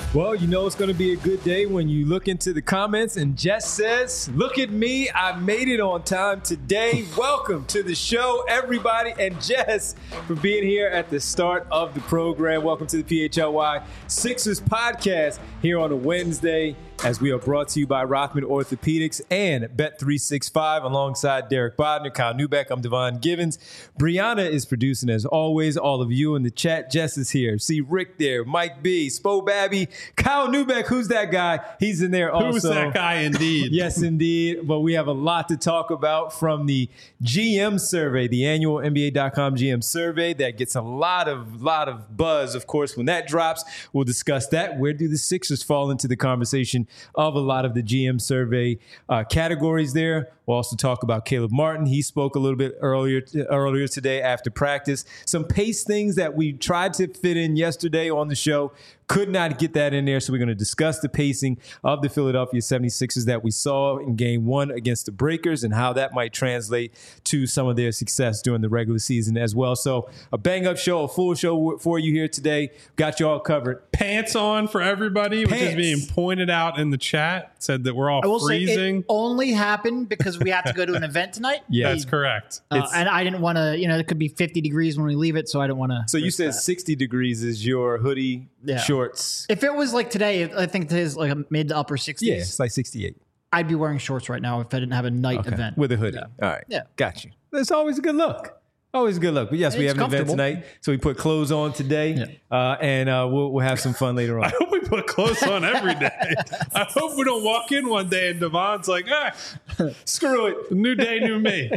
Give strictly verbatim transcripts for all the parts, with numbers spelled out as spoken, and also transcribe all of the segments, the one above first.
Well, you know it's going to be a good day when you look into the comments and Jess says, look at me, I made it on time today. Welcome to the show, everybody, and Jess for being here at the start of the program. Welcome to the P H L Y Sixers podcast here on a Wednesday, as we are brought to you by Rothman Orthopedics and Bet three sixty-five alongside Derek Bodner, Kyle Newbeck. I'm Devon Givens. Brianna is producing as always. All of you in the chat. Jess is here. See Rick there, Mike B, Spo Babby, Kyle Newbeck. Who's that guy? He's in there also. Who's that guy indeed? Yes, indeed. But we have a lot to talk about from the G M survey, the annual N B A dot com G M survey that gets a lot of lot of buzz, of course, when that drops. We'll discuss that. Where do the Sixers fall into the conversation of a lot of the G M survey uh, categories there? We'll also talk about Caleb Martin. He spoke a little bit earlier earlier today after practice. Some pace things that we tried to fit in yesterday on the show. Could not get that in there, so we're going to discuss the pacing of the Philadelphia seventy-sixers that we saw in game one against the Breakers and how that might translate to some of their success during the regular season as well. So a bang-up show, a full show for you here today. Got you all covered. Pants on for everybody, Pants. Which is being pointed out in the chat. Said that we're all I will freezing. Say it only happened because we have to go to an event tonight. Yeah, that's correct. Uh, and I didn't want to, you know, it could be fifty degrees when we leave it, so I didn't want to. So you said that. sixty degrees is your hoodie, Yeah. shorts. If it was like today, I think today's like a mid to upper sixties. Yeah, it's like sixty-eight. I'd be wearing shorts right now if I didn't have a night Okay. event. With a hoodie. Yeah. All right. Yeah. Got you. That's always a good look. Always a good look. But yes, we It's have an event comfortable. tonight, so we put clothes on today, Yeah. uh, and uh, we'll, we'll have some fun later I on. hope we put clothes on every day. I hope we don't walk in one day and Devon's like, ah, Screw it. new day, new me.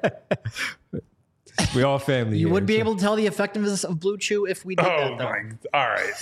We all family You here, would be so- able to tell the effectiveness of Blue Chew if we did Oh that, though. my! All right,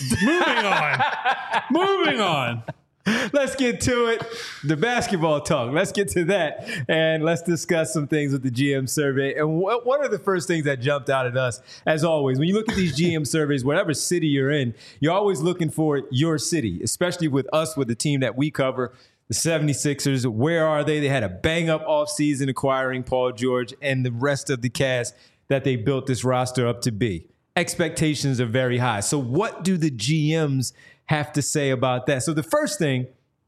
moving on. Moving on. Let's get to it. The basketball talk. Let's get to that. And let's discuss some things with the G M survey. And wh- one of the first things that jumped out at us, as always, when you look at these G M surveys, whatever city you're in, you're always looking for your city, especially with us, with the team that we cover, the seventy-sixers. Where are they? They had a bang-up offseason acquiring Paul George and the rest of the cast that they built this roster up to be. Expectations are very high. So what do the G Ms have to say about that? So the first thing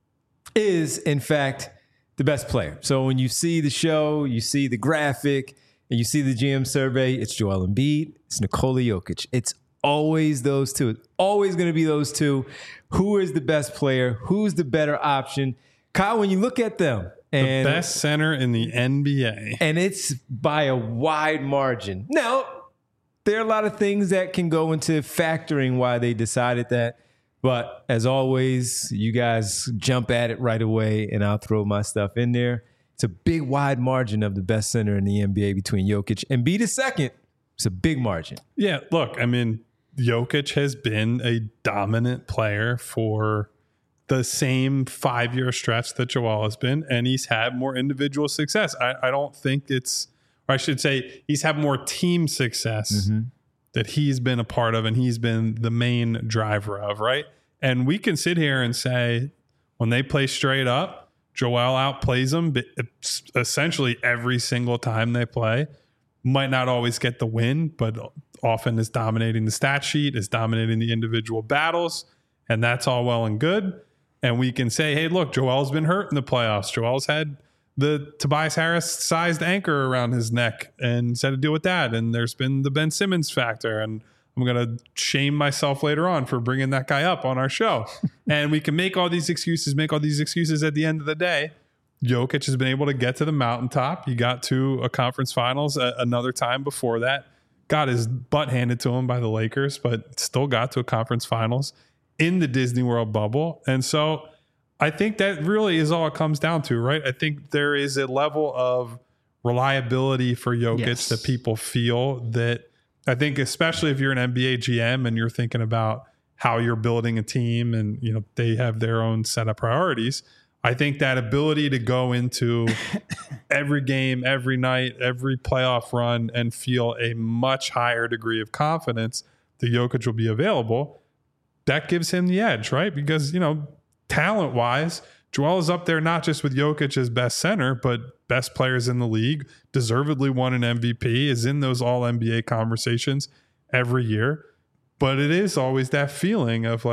is, in fact, the best player. So when you see the show, you see the graphic, and you see the G M survey, it's Joel Embiid, it's Nikola Jokic. It's always those two. It's always going to be those two. Who is the best player? Who's the better option? Kyle, when you look at them, and The best center in the N B A. and it's by a wide margin. Now, there are a lot of things that can go into factoring why they decided that. But as always, you guys jump at it right away, and I'll throw my stuff in there. It's a big, wide margin of the best center in the N B A between Jokic and Embiid is second. It's a big margin. Yeah, look, I mean, Jokic has been a dominant player for the same five-year stretch that Joel has been, and he's had more individual success. I, I don't think it's, or I should say, he's had more team success Mm-hmm. that he's been a part of and he's been the main driver of, right? And we can sit here and say, when they play straight up, Joel outplays them essentially every single time they play. Might not always get the win, but often is dominating the stat sheet, is dominating the individual battles, and that's all well and good. And we can say, hey, look, Joel's been hurt in the playoffs. Joel's had the Tobias Harris-sized anchor around his neck and he's had to deal with that. And there's been the Ben Simmons factor. And I'm going to shame myself later on for bringing that guy up on our show. And we can make all these excuses, make all these excuses at the end of the day. Jokic has been able to get to the mountaintop. He got to a conference finals a- another time before that. Got his butt handed to him by the Lakers, but still got to a conference finals in the Disney World bubble. And so I think that really is all it comes down to, right? I think there is a level of reliability for Jokic Yes. that people feel that I think, especially if you're an N B A G M and you're thinking about how you're building a team and, you know, they have their own set of priorities. I think that ability to go into every game, every night, every playoff run and feel a much higher degree of confidence that Jokic will be available, that gives him the edge, right? Because, you know, talent-wise, Joel is up there not just with Jokic as best center, but best players in the league, deservedly won an M V P, is in those all-N B A conversations every year. But it is always that feeling of like,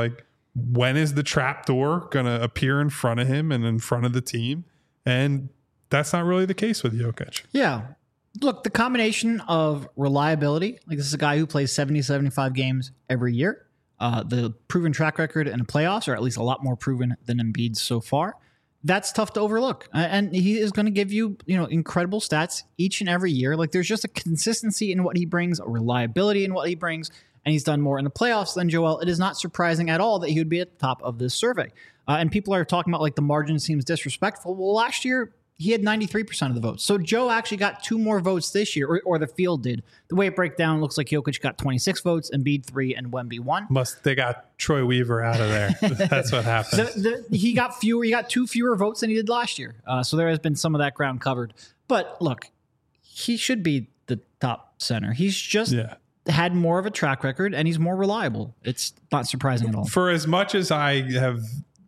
when is the trap door going to appear in front of him and in front of the team? And that's not really the case with Jokic. Yeah. Look, the combination of reliability, like this is a guy who plays seventy, seventy-five games every year. Uh, the proven track record in the playoffs, or at least a lot more proven than Embiid's so far. That's tough to overlook. Uh, and he is going to give you, you know, incredible stats each and every year. Like there's just a consistency in what he brings, a reliability in what he brings, and he's done more in the playoffs than Joel. It is not surprising at all that he would be at the top of this survey. Uh, and people are talking about like the margin seems disrespectful. Well, last year, he had ninety-three percent of the votes. So Joe actually got two more votes this year, or, or the field did. The way it breaks down, looks like Jokic got twenty-six votes, Embiid three, and Wemby one. Must they got Troy Weaver out of there. That's what happened. The, the, he got fewer. He got two fewer votes than he did last year. Uh, so there has been some of that ground covered. But look, he should be the top center. He's just yeah. had more of a track record, and he's more reliable. It's not surprising at all. For as much as I have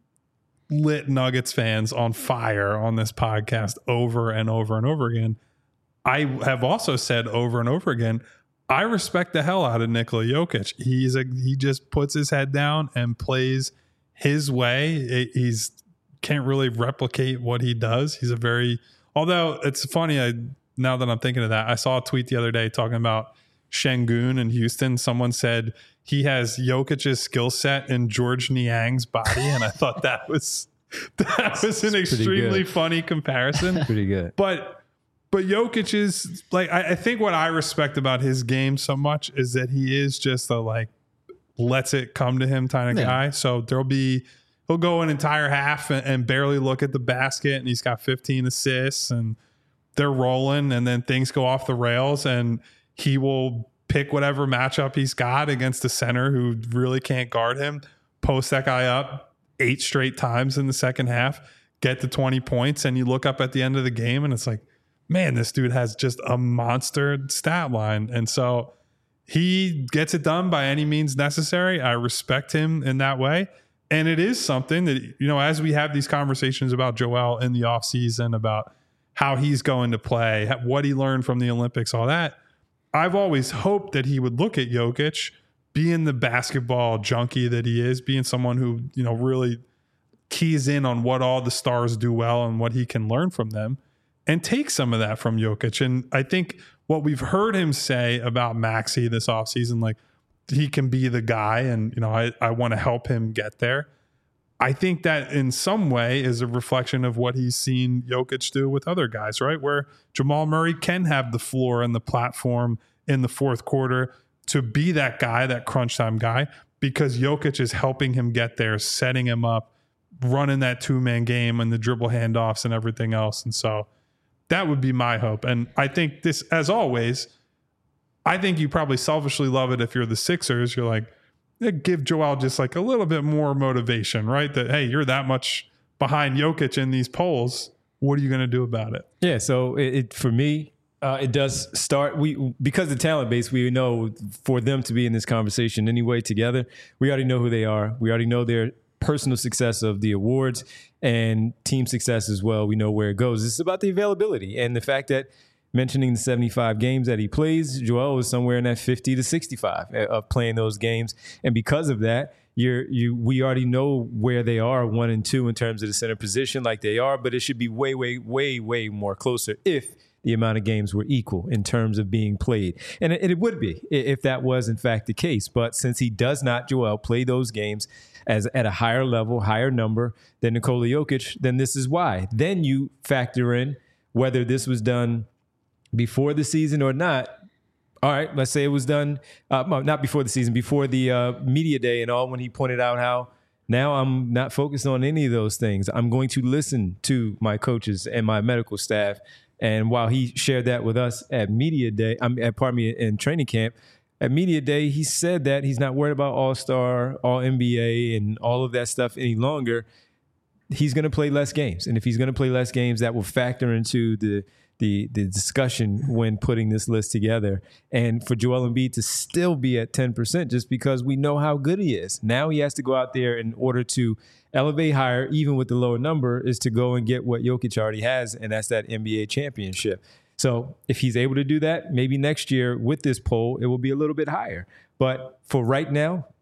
lit Nuggets fans on fire on this podcast over and over and over again, I have also said over and over again, I respect the hell out of Nikola Jokic. He's a, he just puts his head down and plays his way. He's can't really replicate what he does. He's a very, although it's funny, I now that I'm thinking of that, I saw a tweet the other day talking about Şengün in Houston. Someone said he has Jokic's skill set in George Niang's body, and I thought that was that was an extremely funny comparison. Pretty good. But but Jokic is like, I, I think what I respect about his game so much is that he is just a like lets it come to him kind of Yeah. guy. So there'll be he'll go an entire half and, and barely look at the basket, and he's got fifteen assists, and they're rolling, and then things go off the rails, and he will pick whatever matchup he's got against a center who really can't guard him, post that guy up eight straight times in the second half, get to twenty points, and you look up at the end of the game and it's like, man, this dude has just a monster stat line. And so he gets it done by any means necessary. I respect him in that way. And it is something that, you know, as we have these conversations about Joel in the offseason, about how he's going to play, what he learned from the Olympics, all that, I've always hoped that he would look at Jokic, being the basketball junkie that he is, being someone who, you know, really keys in on what all the stars do well and what he can learn from them, and take some of that from Jokic. And I think what we've heard him say about Maxey this offseason, like he can be the guy, and, you know, I, I want to help him get there. I think that in some way is a reflection of what he's seen Jokic do with other guys, right? Where Jamal Murray can have the floor and the platform in the fourth quarter to be that guy, that crunch time guy, because Jokic is helping him get there, setting him up, running that two-man game and the dribble handoffs and everything else. And so that would be my hope. And I think this, as always, I think you probably selfishly love it if you're the Sixers. You're like, give Joel just like a little bit more motivation, right? That, hey, you're that much behind Jokic in these polls. What are you going to do about it? Yeah, so it, it for me, uh, it does start. We because the talent base, we know for them to be in this conversation anyway together. We already know who they are. We already know their personal success of the awards and team success as well. We know where it goes. It's about the availability and the fact that, mentioning the seventy-five games that he plays, Joel is somewhere in that fifty to sixty-five of playing those games. And because of that, you're, you we already know where they are, one and two in terms of the center position like they are, but it should be way, way, way, way more closer if the amount of games were equal in terms of being played. And it, it would be if that was in fact the case. But since he does not, Joel, play those games as at a higher level, higher number than Nikola Jokic, then this is why. Then you factor in whether this was done before the season or not. All right, let's say it was done, uh, not before the season, before the uh, media day and all, when he pointed out how now I'm not focused on any of those things. I'm going to listen to my coaches and my medical staff. And while he shared that with us at media day, I'm at, pardon me, in training camp, at media day, he said that he's not worried about All-Star, All N B A, and all of that stuff any longer. He's going to play less games. And if he's going to play less games, that will factor into the The, the discussion when putting this list together. And for Joel Embiid to still be at ten percent just because we know how good he is. Now he has to go out there in order to elevate higher, even with the lower number, is to go and get what Jokic already has, and that's that N B A championship. So if he's able to do that, maybe next year with this poll, it will be a little bit higher. But for right now,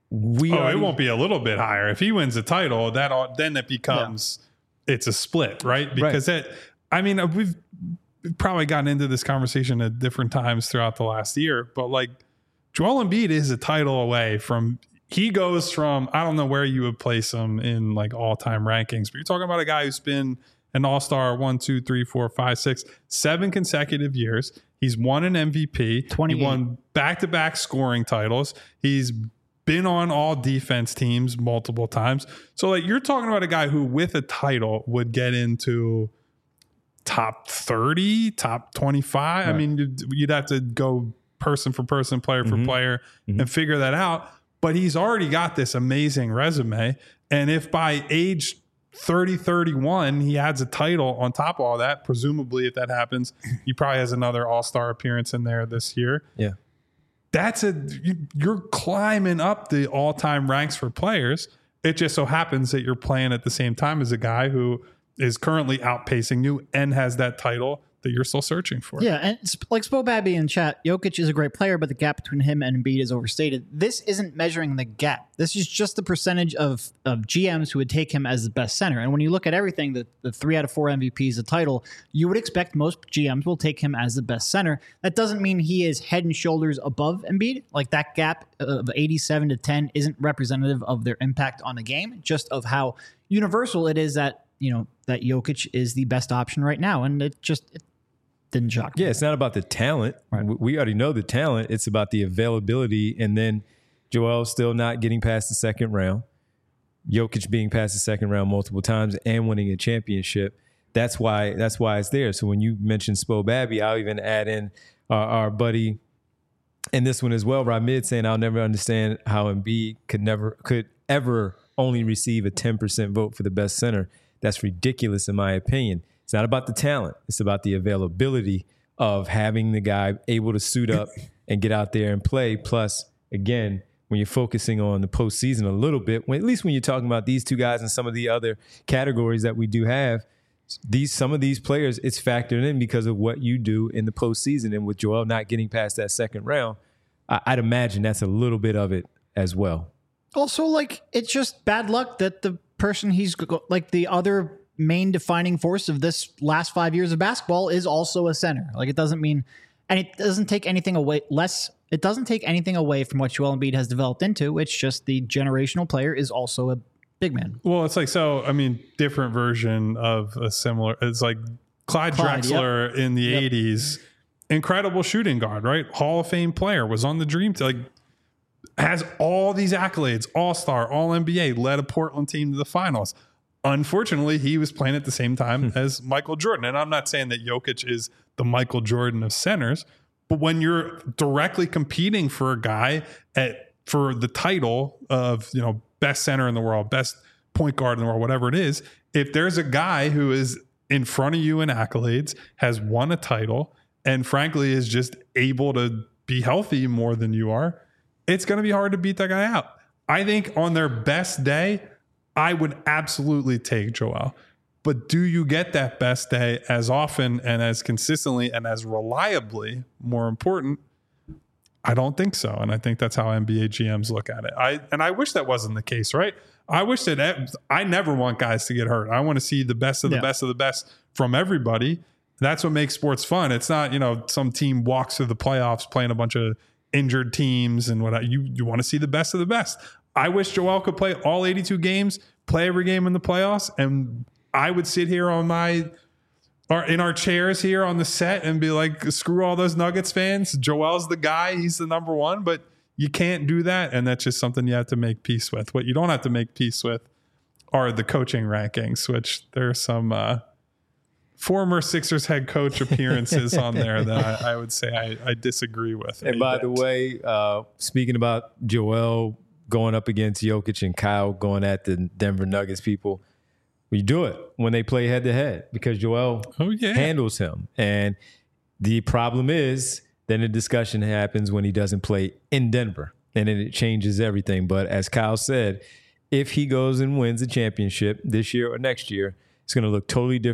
we oh, already, it won't be a little bit higher. If he wins the title, that all, then it becomes yeah. it's a split, right? Because right. it, I mean, we've probably gotten into this conversation at different times throughout the last year, but like Joel Embiid is a title away from. He goes from, I don't know where you would place him in like all time rankings, but you're talking about a guy who's been an all-star one, two, three, four, five, six, seven consecutive years. He's won an M V P. He won back-to-back scoring titles. He's been on all defense teams multiple times. So like you're talking about a guy who with a title would get into top thirty, top twenty-five. Right. I mean, you'd, you'd have to go person for person, player for mm-hmm. player mm-hmm. and figure that out. But he's already got this amazing resume. And if by age thirty, thirty-one, he adds a title on top of all that, presumably if that happens, he probably has another all-star appearance in there this year. Yeah. That's a, you're climbing up the all-time ranks for players. It just so happens that you're playing at the same time as a guy who is currently outpacing you and has that title that you're still searching for. Yeah, and like Spo Babby in chat, Jokic is a great player, but the gap between him and Embiid is overstated. This isn't measuring the gap. This is just the percentage of, of G Ms who would take him as the best center. And when you look at everything, the, the three out of four M V Ps, the title, you would expect most G Ms will take him as the best center. That doesn't mean he is head and shoulders above Embiid. Like that gap of eighty-seven to ten isn't representative of their impact on the game, just of how universal it is that, you know, that Jokic is the best option right now. And it just... It, didn't shock me. Yeah, it's not about the talent. Right. We already know the talent. It's about the availability. And then Joel still not getting past the second round. Jokic being past the second round multiple times and winning a championship. That's why that's why it's there. So when you mention Spo Babby, I'll even add in our, our buddy in this one as well, Ramid, saying I'll never understand how Embiid could never could ever only receive a ten percent vote for the best center. That's ridiculous in my opinion. It's not about the talent. It's about the availability of having the guy able to suit up and get out there and play. Plus, again, when you're focusing on the postseason a little bit, when, at least when you're talking about these two guys and some of the other categories that we do have, these some of these players, it's factored in because of what you do in the postseason. And with Joel not getting past that second round, I, I'd imagine that's a little bit of it as well. Also, like, it's just bad luck that the person he's like the other main defining force of this last five years of basketball is also a center. Like it doesn't mean, and it doesn't take anything away less. It doesn't take anything away from what Joel Embiid has developed into. It's just the generational player is also a big man. Well, it's like, so, I mean, different version of a similar, it's like Clyde, Clyde Drexler yep. in the yep. eighties, incredible shooting guard, right? Hall of Fame player, was on the dream team, like has all these accolades, all-star, all N B A, led a Portland team to the finals. Unfortunately, he was playing at the same time as Michael Jordan. And I'm not saying that Jokic is the Michael Jordan of centers, but when you're directly competing for a guy at for the title of, you know, best center in the world, best point guard in the world, whatever it is, if there's a guy who is in front of you in accolades, has won a title, and frankly is just able to be healthy more than you are, it's going to be hard to beat that guy out. I think on their best day, I would absolutely take Joel. But do you get that best day as often and as consistently and as reliably, more important? I don't think so. And I think that's how N B A G Ms look at it. I and I wish that wasn't the case, right? I wish that I never want guys to get hurt. I want to see the best of the yeah. best of the best from everybody. That's what makes sports fun. It's not, you know, some team walks through the playoffs playing a bunch of injured teams and what you you want to see the best of the best. I wish Joel could play all eighty-two games, play every game in the playoffs, and I would sit here on my or in our chairs here on the set and be like, screw all those Nuggets fans. Joel's the guy. He's the number one, but you can't do that. And that's just something you have to make peace with. What you don't have to make peace with are the coaching rankings, which there are some uh, former Sixers head coach appearances on there that I, I would say I, I disagree with. And by bit. the way, uh, speaking about Joel going up against Jokic and Kyle going at the Denver Nuggets people, we do it when they play head to head because Joel oh, yeah. handles him. And the problem is then the discussion happens when he doesn't play in Denver, and then it changes everything. But as Kyle said, if he goes and wins a championship this year or next year, it's going to look totally different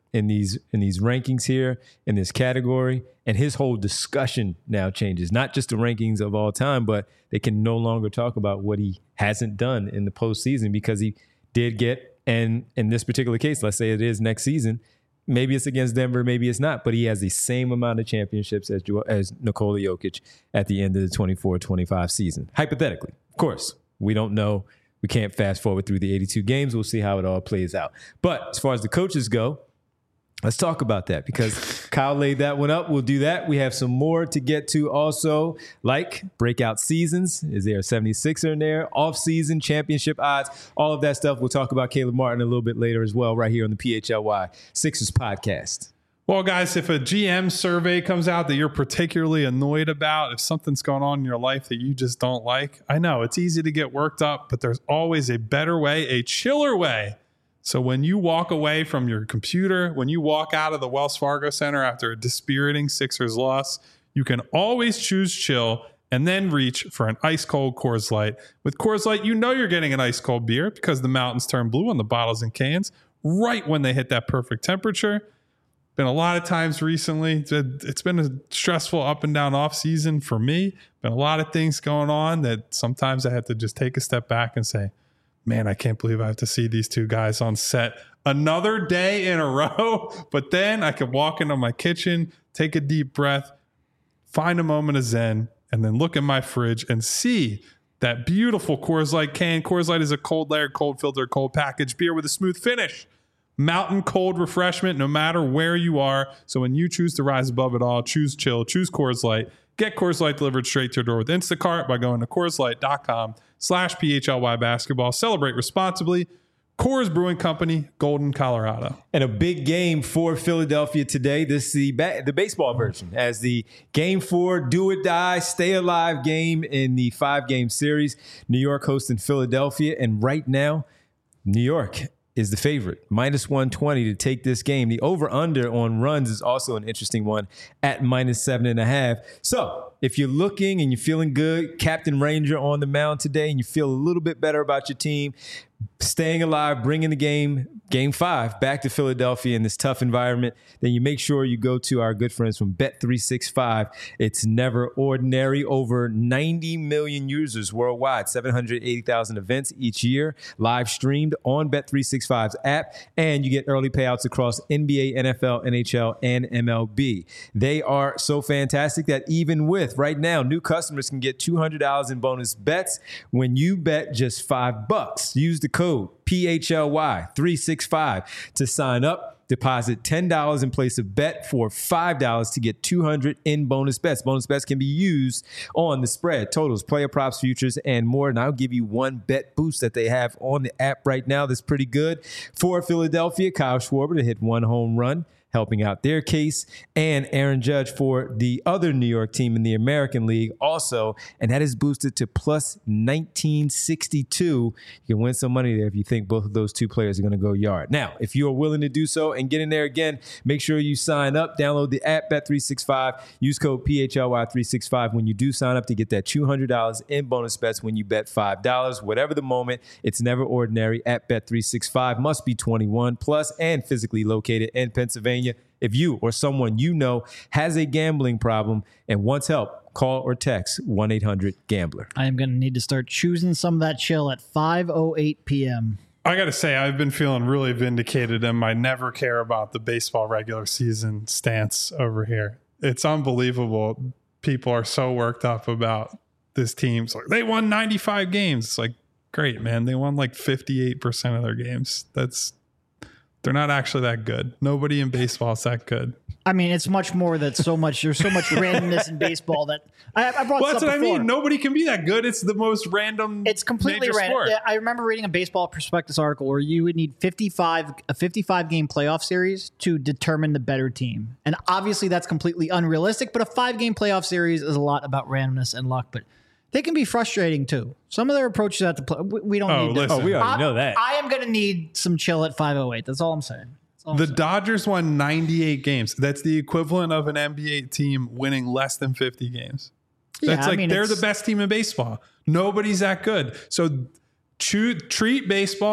in these in these rankings here in this category, and his whole discussion now changes. Not just the rankings of all time, but they can no longer talk about what he hasn't done in the postseason because he did get, and in this particular case, let's say it is next season, maybe it's against Denver, maybe it's not, but he has the same amount of championships as as Nikola Jokic at the end of the twenty-four twenty-five season. Hypothetically, of course, we don't know. We can't fast forward through the eighty-two games. We'll see how it all plays out. But as far as the coaches go, let's talk about that because Kyle laid that one up. We'll do that. We have some more to get to also, like breakout seasons. Is there a seventy-sixer in there? Off-season championship odds, all of that stuff. We'll talk about Caleb Martin a little bit later as well, right here on the P H L Y Sixers podcast. Well, guys, if a G M survey comes out that you're particularly annoyed about, if something's going on in your life that you just don't like, I know it's easy to get worked up, but there's always a better way, a chiller way. So when you walk away from your computer, when you walk out of the Wells Fargo Center after a dispiriting Sixers loss, you can always choose chill and then reach for an ice cold Coors Light. With Coors Light, you know you're getting an ice cold beer because the mountains turn blue on the bottles and cans right when they hit that perfect temperature. Been a lot of times recently. It's been a stressful up and down off season for me. Been a lot of things going on that sometimes I have to just take a step back and say, man, I can't believe I have to see these two guys on set another day in a row. But then I could walk into my kitchen, take a deep breath, find a moment of zen, and then look in my fridge and see that beautiful Coors Light can. Coors Light is a cold layered, cold filtered, cold packaged beer with a smooth finish. Mountain cold refreshment no matter where you are. So when you choose to rise above it all, choose chill, choose Coors Light. Get Coors Light delivered straight to your door with Instacart by going to CoorsLight.com slash PHLY basketball. Celebrate responsibly. Coors Brewing Company, Golden, Colorado. And a big game for Philadelphia today. This is the, ba- the baseball version as the game four do or die, stay alive game in the five-game series. New York hosting Philadelphia. And right now, New York is the favorite, minus one twenty to take this game. The over-under on runs is also an interesting one at minus seven and a half. So if you're looking and you're feeling good, Captain Ranger on the mound today, and you feel a little bit better about your team, staying alive, bringing the game, game five, back to Philadelphia in this tough environment, then you make sure you go to our good friends from Bet three sixty-five. It's never ordinary. Over ninety million users worldwide, seven hundred eighty thousand events each year, live streamed on Bet three sixty-five's app, and you get early payouts across N B A, N F L, N H L, and M L B. They are so fantastic that even with, right now, new customers can get two hundred dollars in bonus bets when you bet just five bucks. Use the code P H L Y three sixty-five to sign up. Deposit ten dollars in place of bet for five dollars to get two hundred dollars in bonus bets. Bonus bets can be used on the spread, totals, player props, futures, and more. And I'll give you one bet boost that they have on the app right now that's pretty good. For Philadelphia, Kyle Schwarber to hit one home run, helping out their case, and Aaron Judge for the other New York team in the American League also, and that is boosted to plus nineteen sixty-two. You can win some money there if you think both of those two players are going to go yard. Now, if you are willing to do so and get in there again, make sure you sign up, download the app Bet three sixty-five, use code P H L Y three sixty-five when you do sign up to get that two hundred dollars in bonus bets when you bet five dollars. Whatever the moment, it's never ordinary at Bet three sixty-five. Must be twenty-one plus and physically located in Pennsylvania. If you or someone you know has a gambling problem and wants help, call or text one eight hundred gambler. I am going to need to start choosing some of that chill at five oh eight p.m. I got to say, I've been feeling really vindicated in my never care about the baseball regular season stance over here. It's unbelievable. People are so worked up about this team. It's like, they won ninety-five games. It's like, great, man. They won like fifty-eight percent of their games. That's They're not actually that good. Nobody in baseball is that good. I mean, it's much more that so much, there's so much randomness in baseball that I, I brought Well, that's what before. I mean. Nobody can be that good. It's the most random. It's completely major random. sport. I remember reading a Baseball Prospectus article where you would need fifty-five a fifty-five game playoff series to determine the better team. And obviously that's completely unrealistic, but a five game playoff series is a lot about randomness and luck, but they can be frustrating too. Some of their approaches at the play, we, we don't Oh, need to. listen. Oh, we already I, know that. I am going to need some chill at five oh eight. That's all I'm saying. That's all I'm The saying. Dodgers won ninety-eight games. That's the equivalent of an N B A team winning less than fifty games. Yeah, That's I like mean, they're the it's- best team in baseball. Nobody's that good. So choo- treat baseball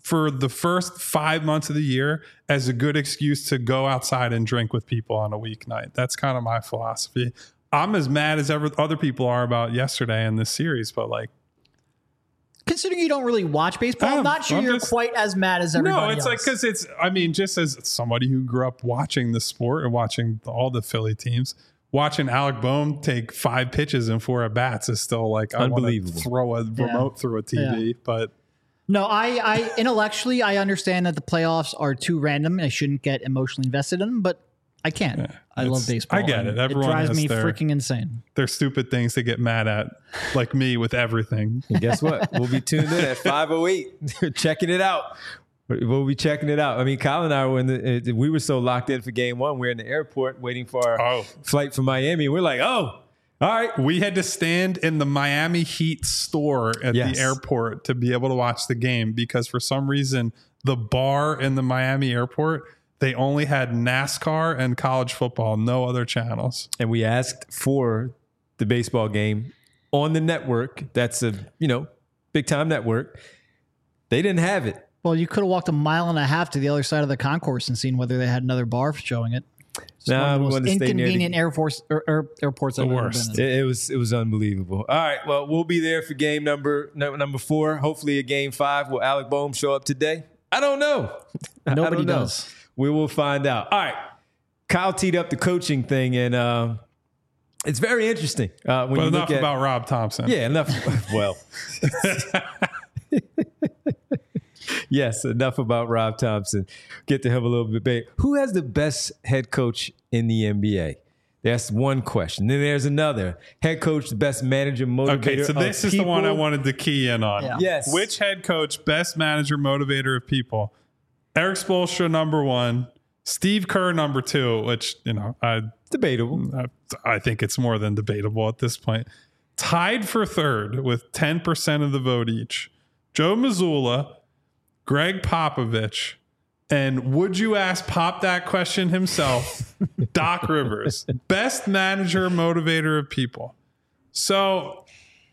for the first five months of the year as a good excuse to go outside and drink with people on a weeknight. That's kind of my philosophy. I'm as mad as ever other people are about yesterday in this series, but like, considering you don't really watch baseball, I'm, I'm- not sure I'm you're just- quite as mad as everybody no, it's else. like, because it's, I mean, just as somebody who grew up watching the sport and watching all the Philly teams, watching Alec Boehm take five pitches and four at bats is still like, I want to Unbelievable. throw a remote through a T V, Yeah. but No, I, I intellectually I understand that the playoffs are too random and I shouldn't get emotionally invested in them, but I can't. I love it's- baseball. I get and it. Everyone it drives has me their- freaking insane. they're stupid things to get mad at, like me with everything. And guess what? We'll be tuned in at five oh eight, checking it out. We'll be checking it out. I mean, Kyle and I were in the, we were so locked in for game one. We're in the airport waiting for our Oh. flight from Miami. We're like, oh, all right. We had to stand in the Miami Heat store at Yes. the airport to be able to watch the game because for some reason the bar in the Miami airport, they only had NASCAR and college football, no other channels. And we asked for the baseball game on the network. That's a, you know, big time network. They didn't have it. Well, you could have walked a mile and a half to the other side of the concourse and seen whether they had another bar showing it. It's Nah, one of we the most wanted to stay near the- inconvenient Air Force or, or airports I've ever worst. been in. It, it was it was unbelievable. All right, well, we'll be there for game number no- number four. Hopefully, a game five. Will Alec Boehm show up today? I don't know. I Nobody don't know. does. We will find out. All right, Kyle teed up the coaching thing, and uh, it's very interesting. Uh, when But you enough look at, about Rob Thompson. yeah, enough. Well, yes, enough about Rob Thompson. Get to him a little bit. Back. Who has the best head coach in the N B A? That's one question. Then there's another head coach, the best manager, motivator. Okay, so this of is the one I people. wanted to key in on. Yeah. Yes. Which head coach, best manager, motivator of people? Eric Spoelstra, number one. Steve Kerr, number two, which, you know, I Debatable. I, I think it's more than debatable at this point. Tied for third with ten percent of the vote each. Joe Mazzulla, Greg Popovich, and would you ask Pop that question himself, Doc Rivers, best manager, motivator of people. So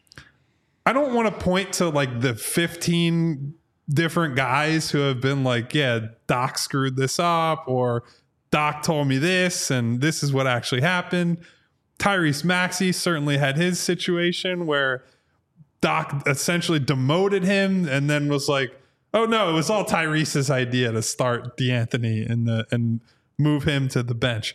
I don't want to point to like the fifteen different guys who have been like, yeah, Doc screwed this up, or Doc told me this, and this is what actually happened. Tyrese Maxey certainly had his situation where Doc essentially demoted him and then was like, oh no, it was all Tyrese's idea to start DeAnthony and the and move him to the bench.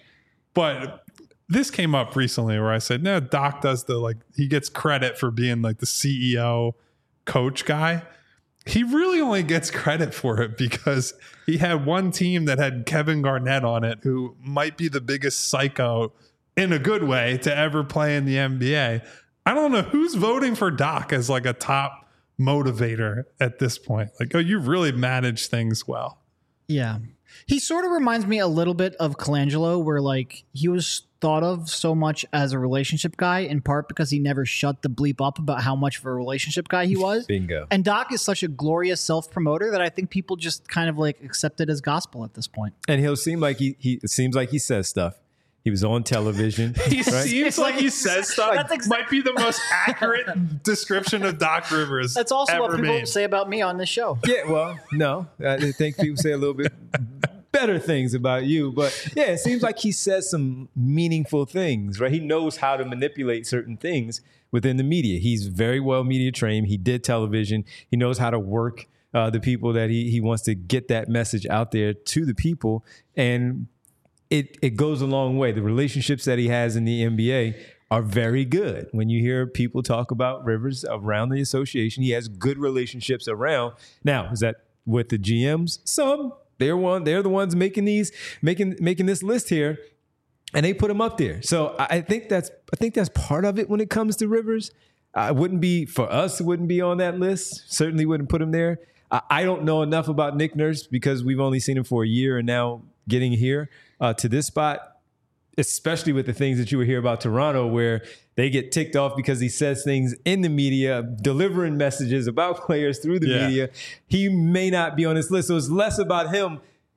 But this came up recently where I said, no, Doc does the like he gets credit for being like the C E O coach guy. He really only gets credit for it because he had one team that had Kevin Garnett on it, who might be the biggest psycho in a good way to ever play in the N B A. I don't know who's voting for Doc as like a top motivator at this point. Like, oh, you really manage things well. Yeah. He sort of reminds me a little bit of Colangelo, where like he was thought of so much as a relationship guy, in part because he never shut the bleep up about how much of a relationship guy he was. Bingo. And Doc is such a glorious self-promoter that I think people just kind of like accept it as gospel at this point. And he'll seem like he, he it seems like he says stuff. He was on television. He right? seems It's like like- he says stuff. That's exa- might be the most accurate description of Doc Rivers. That's also what ever people made. say about me on this show. Yeah, well, no. I think people say a little bit better things about you. But yeah, it seems like he says some meaningful things, right? He knows how to manipulate certain things within the media. He's very well media trained. He did television. He knows how to work uh, the people that he, he wants to get that message out there to the people. And it it goes a long way. The relationships that he has in the N B A are very good. When you hear people talk about Rivers around the association, he has good relationships around. Now, is that with the G Ms? Some. They're one. They're the ones making these, making making this list here, and they put him up there. So I I think that's I think that's part of it when it comes to Rivers. I wouldn't be for us. It wouldn't be on that list. Certainly wouldn't put him there. I, I don't know enough about Nick Nurse because we've only seen him for a year, and now getting here uh, to this spot, especially with the things that you would hear about Toronto, where they get ticked off because he says things in the media, delivering messages about players through the Yeah. media. He may not be on this list. So it's less about him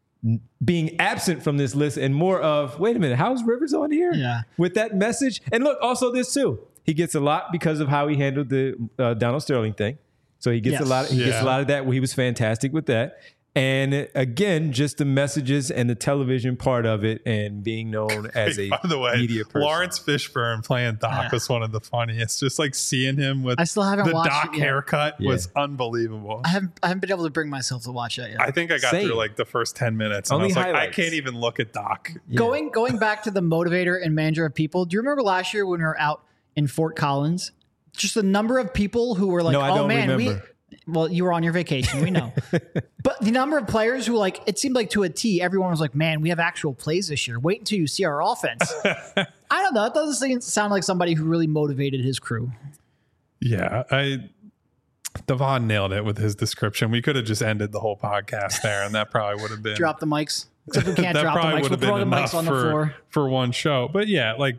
being absent from this list and more of, wait a minute, how's Rivers on here? Yeah. With that message. And look, also this too. He gets a lot because of how he handled the uh, Donald Sterling thing. So he gets Yes. a lot. Of, he gets Yeah. a lot of that. He was fantastic with that. And again, just the messages and the television part of it, and being known as a By the way, media person. Lawrence Fishburne playing Doc Yeah. was one of the funniest. Just like seeing him with I still haven't the watched Doc it yet. haircut Yeah. was unbelievable. I haven't, I haven't been able to bring myself to watch that yet. I think I got Same. through like the first ten minutes, and Only I was like, highlights. I can't even look at Doc. Yeah. Going going back to the motivator and manager of people. Do you remember last year when we were out in Fort Collins? Just the number of people who were like, No, I "Oh don't man, remember. we." Well, you were on your vacation, we know. But the number of players who like it seemed like to a T, everyone was like, "Man, we have actual plays this year. Wait until you see our offense." I don't know. It doesn't seem, sound like somebody who really motivated his crew. Yeah, I Devon nailed it with his description. We could have just ended the whole podcast there, and that probably would have been Drop the mics. Except we can't that drop the probably mics. would We'll have throw been the enough mics on the for floor. for one show. But yeah, like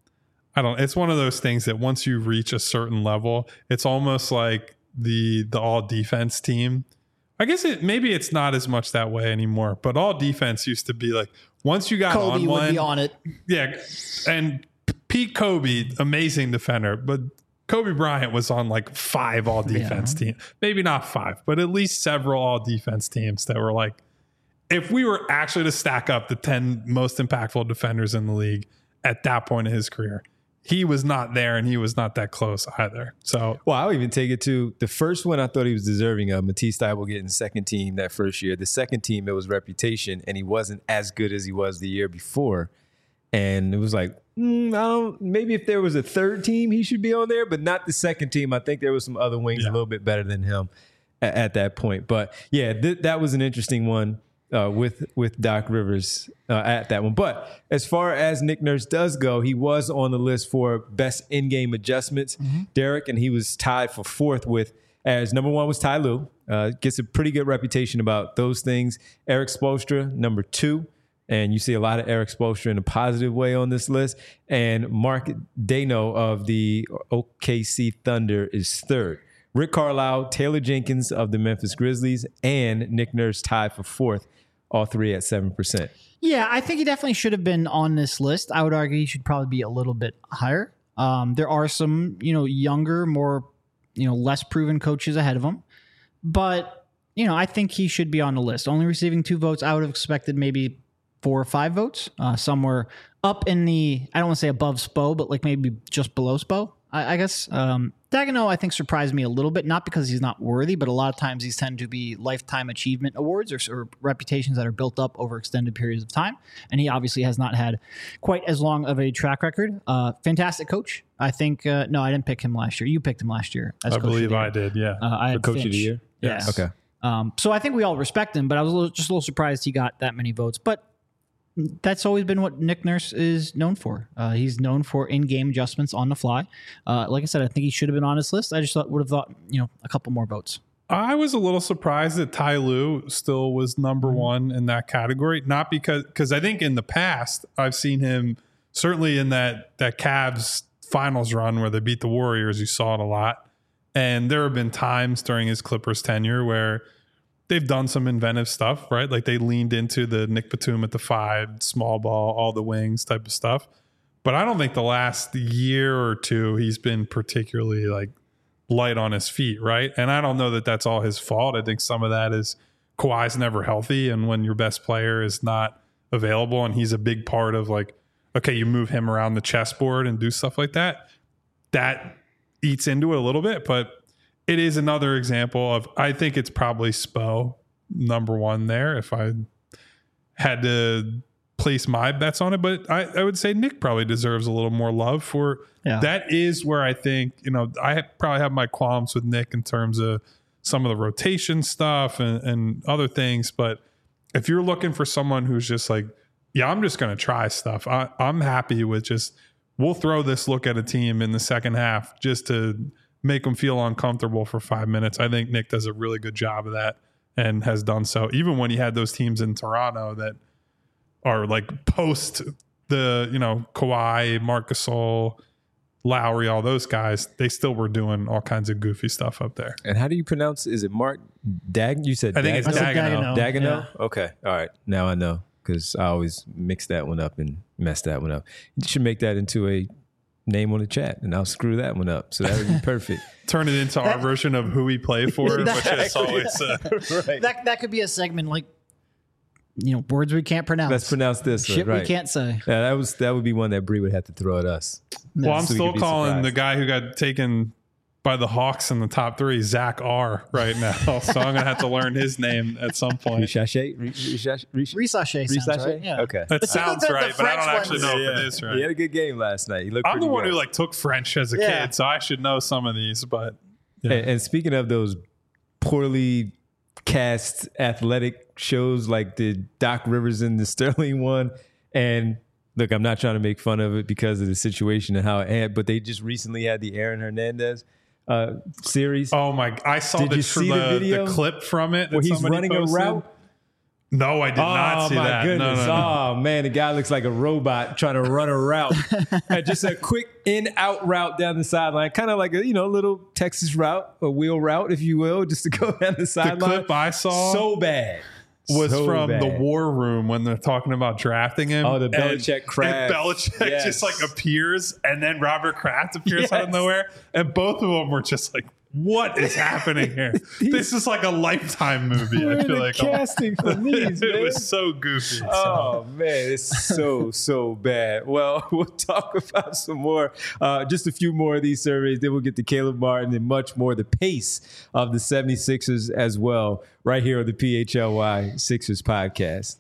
I don't. It's one of those things that once you reach a certain level, it's almost like the the all defense team. I guess it maybe it's not as much that way anymore. But all defense used to be like once you got Kobe on would one, be on it. yeah, and Pete Kobe, amazing defender, but Kobe Bryant was on like five all defense Yeah. teams. Maybe not five, but at least several all defense teams that were like, if we were actually to stack up the ten most impactful defenders in the league at that point in his career, he was not there and he was not that close either. So Well, I'll even take it to the first one I thought he was deserving of. Matisse Thybulle getting second team that first year. The second team, it was reputation, and he wasn't as good as he was the year before. And it was like, mm, I don't. Maybe if there was a third team, he should be on there, but not the second team. I think there was some other wings Yeah. a little bit better than him at, at that point. But yeah, th- that was an interesting one uh, with with Doc Rivers uh, at that one. But as far as Nick Nurse does go, he was on the list for best in-game adjustments, Derek, and he was tied for fourth with. As number one was Ty Lue, uh, gets a pretty good reputation about those things. Eric Spoelstra, number two. And you see a lot of Eric Spoelstra in a positive way on this list. And Mark Dano of the O K C Thunder is third. Rick Carlisle, Taylor Jenkins of the Memphis Grizzlies, and Nick Nurse tied for fourth, all three at seven percent. Yeah, I think he definitely should have been on this list. I would argue he should probably be a little bit higher. Um, there are some, you know, younger, more, you know, less proven coaches ahead of him. But, you know, I think he should be on the list. Only receiving two votes, I would have expected maybe four or five votes. Uh, some were up in the, I don't want to say above Spo, but like maybe just below Spo, I, I guess. Um, Dagenot, I think, surprised me a little bit, not because he's not worthy, but a lot of times these tend to be lifetime achievement awards or, or reputations that are built up over extended periods of time. And he obviously has not had quite as long of a track record. Uh, fantastic coach. I think, uh, no, I didn't pick him last year. You picked him last year. As I coach of believe the year. I did. Yeah. Uh, I had Coach of Finch. the year? Yeah. Yes. Okay. Um, so I think we all respect him, but I was a little, just a little surprised he got that many votes. But that's always been what Nick Nurse is known for. Uh, he's known for in-game adjustments on the fly. Uh, like I said, I think he should have been on his list. I just thought, would have thought, you know, a couple more votes. I was a little surprised that Ty Lue still was number one in that category. Not because, because I think in the past I've seen him certainly in that that Cavs finals run where they beat the Warriors. You saw it a lot, and there have been times during his Clippers tenure where they've done some inventive stuff, right? Like they leaned into the Nick Batum at the five, small ball, all the wings type of stuff. But I don't think the last year or two he's been particularly like light on his feet, right? And I don't know that that's all his fault. I think some of that is Kawhi's never healthy, and when your best player is not available and he's a big part of like, okay, you move him around the chessboard and do stuff like that, that eats into it a little bit. But it is another example of, I think it's probably Spo number one there if I had to place my bets on it. But I, I would say Nick probably deserves a little more love for Yeah. that. Is where I think, you know, I probably have my qualms with Nick in terms of some of the rotation stuff and, and other things. But if you're looking for someone who's just like, yeah, I'm just going to try stuff, I, I'm happy with just, we'll throw this look at a team in the second half just to make them feel uncomfortable for five minutes. I think Nick does a really good job of that and has done so. Even when he had those teams in Toronto that are like post the, you know, Kawhi, Marc Gasol, Lowry, all those guys, they still were doing all kinds of goofy stuff up there. And how do you pronounce? Is it Mark Dag? You said I think it's I said Dagenot. Dagenot. Dagenot? Okay. All right. Now I know because I always mix that one up and mess that one up. You should make that into a name on the chat, and I'll screw that one up. So that would be perfect. Turn it into our version of who we play for, which is always uh, Right. That that could be a segment like, you know, words we can't pronounce. Let's pronounce this. Shit right. we can't say. Yeah, that was that would be one that Bree would have to throw at us. Well, I'm So we still could be calling surprised. the guy who got taken by the Hawks in the top three, Zach R, right now. So I'm going to have to learn his name at some point. Richache? Richache? Risache sounds right. Yeah. Okay. That see, sounds the- the right, but I don't French actually ones- know Yeah. if it is He right. had a good game last night. He looked I'm the pretty one good. who like took French as a Yeah. kid, so I should know some of these, but yeah. And, and speaking of those poorly cast athletic shows like the Doc Rivers and the Sterling one, and look, I'm not trying to make fun of it because of the situation and how it ended, but they just recently had the Aaron Hernandez uh, series Oh my! I saw Did the, you tr- see the the, video? the clip from it that where he's somebody running posted. a route. No, I did not see my that. goodness. No, no, no. Oh, man. The guy looks like a robot trying to run a route. And just a quick in-out route down the sideline. Kind of like a, you know, little Texas route, a wheel route, if you will, just to go down the The sideline. clip I saw So bad. was So from bad. the War Room when they're talking about drafting him. Oh, the And- Belichick Kraft. And Belichick Yes. just like appears, and then Robert Kraft appears out of Yes. nowhere, and both of them were just like, "What is happening here? This is like a Lifetime movie." Where I are feel the like casting for these, it man? was so goofy. so. Oh man, it's so so bad. Well, we'll talk about some more, uh, just a few more of these surveys. Then we'll get to Caleb Martin and much more. The pace of the seventy-sixers as well, right here on the P H L Y Sixers podcast.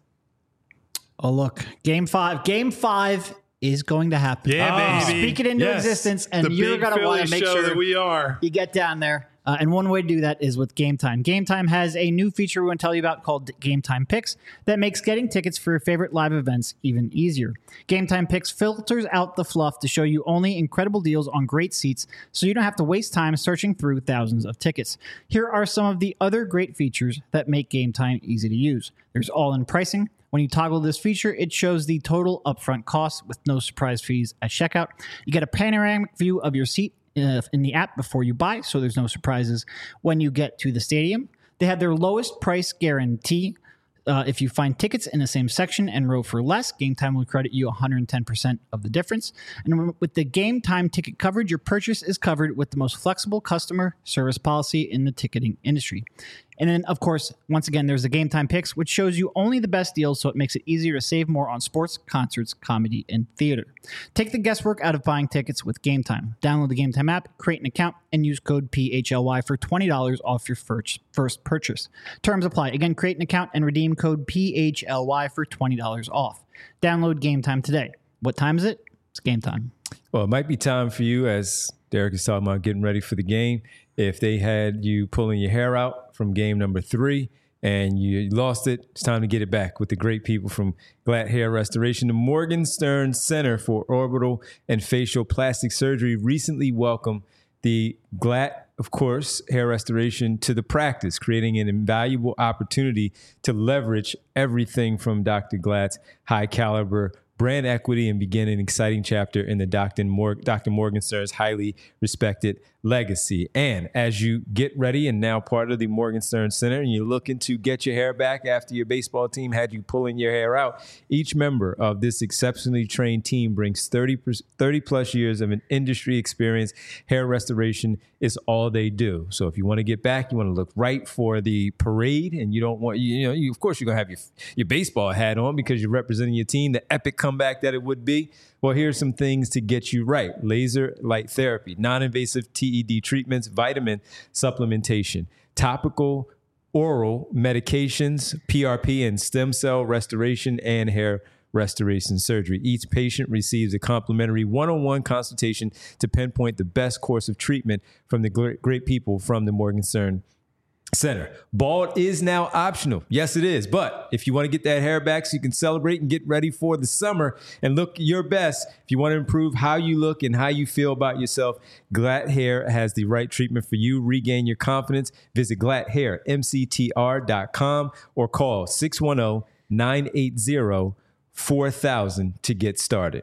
Oh, look. Game five. Game five is going to happen. Yeah, Ah. baby. Speak it into Yes. existence, and the you're big going to want Philly to make show sure that we are. you get down there. Uh, and one way to do that is with Game Time. Game Time has a new feature we want to tell you about called Game Time Picks that makes getting tickets for your favorite live events even easier. Game Time Picks filters out the fluff to show you only incredible deals on great seats so you don't have to waste time searching through thousands of tickets. Here are some of the other great features that make Game Time easy to use. There's all-in pricing. When you toggle this feature, it shows the total upfront cost with no surprise fees at checkout. You get a panoramic view of your seat uh, in the app before you buy, so there's no surprises when you get to the stadium. They have their lowest price guarantee. Uh, if you find tickets in the same section and row for less, Game Time will credit you one hundred ten percent of the difference. And with the Game Time ticket coverage, your purchase is covered with the most flexible customer service policy in the ticketing industry. And then, of course, once again, there's the Game Time Picks, which shows you only the best deals, so it makes it easier to save more on sports, concerts, comedy, and theater. Take the guesswork out of buying tickets with Game Time. Download the Game Time app, create an account, and use code P H L Y for twenty dollars off your first, first purchase. Terms apply. Again, create an account and redeem code P H L Y for twenty dollars off. Download Game Time today. What time is it? It's game time. Well, it might be time for you, as Derek is talking about getting ready for the game. If they had you pulling your hair out from game number three and you lost it, it's time to get it back with the great people from Glatt Hair Restoration. The Morgenstern Center for Orbital and Facial Plastic Surgery recently welcomed the Glatt, of course, hair restoration to the practice, creating an invaluable opportunity to leverage everything from Doctor Glatt's high caliber brand equity and begin an exciting chapter in the Doctor Mor- Doctor Morgenstern's highly respected legacy. And as you get ready and now part of the Morgenstern Center and you're looking to get your hair back after your baseball team had you pulling your hair out, each member of this exceptionally trained team brings thirty, thirty plus years of an industry experience. Hair restoration is all they do. So if you want to get back, you want to look right for the parade, and you don't want, you, you know, you, of course you're going to have your, your baseball hat on because you're representing your team, the epic comeback that it would be. Well, here's some things to get you right. Laser light therapy, non-invasive T E D treatments, vitamin supplementation, topical oral medications, P R P and stem cell restoration, and hair restoration surgery. Each patient receives a complimentary one-on-one consultation to pinpoint the best course of treatment from the great, great people from the Morgenstern Center. Bald is now optional. Yes, it is. But if you want to get that hair back so you can celebrate and get ready for the summer and look your best, if you want to improve how you look and how you feel about yourself, Glatt Hair has the right treatment for you. Regain your confidence. Visit glatt hair m c t r dot com or call six one zero, nine eight zero, four thousand to get started.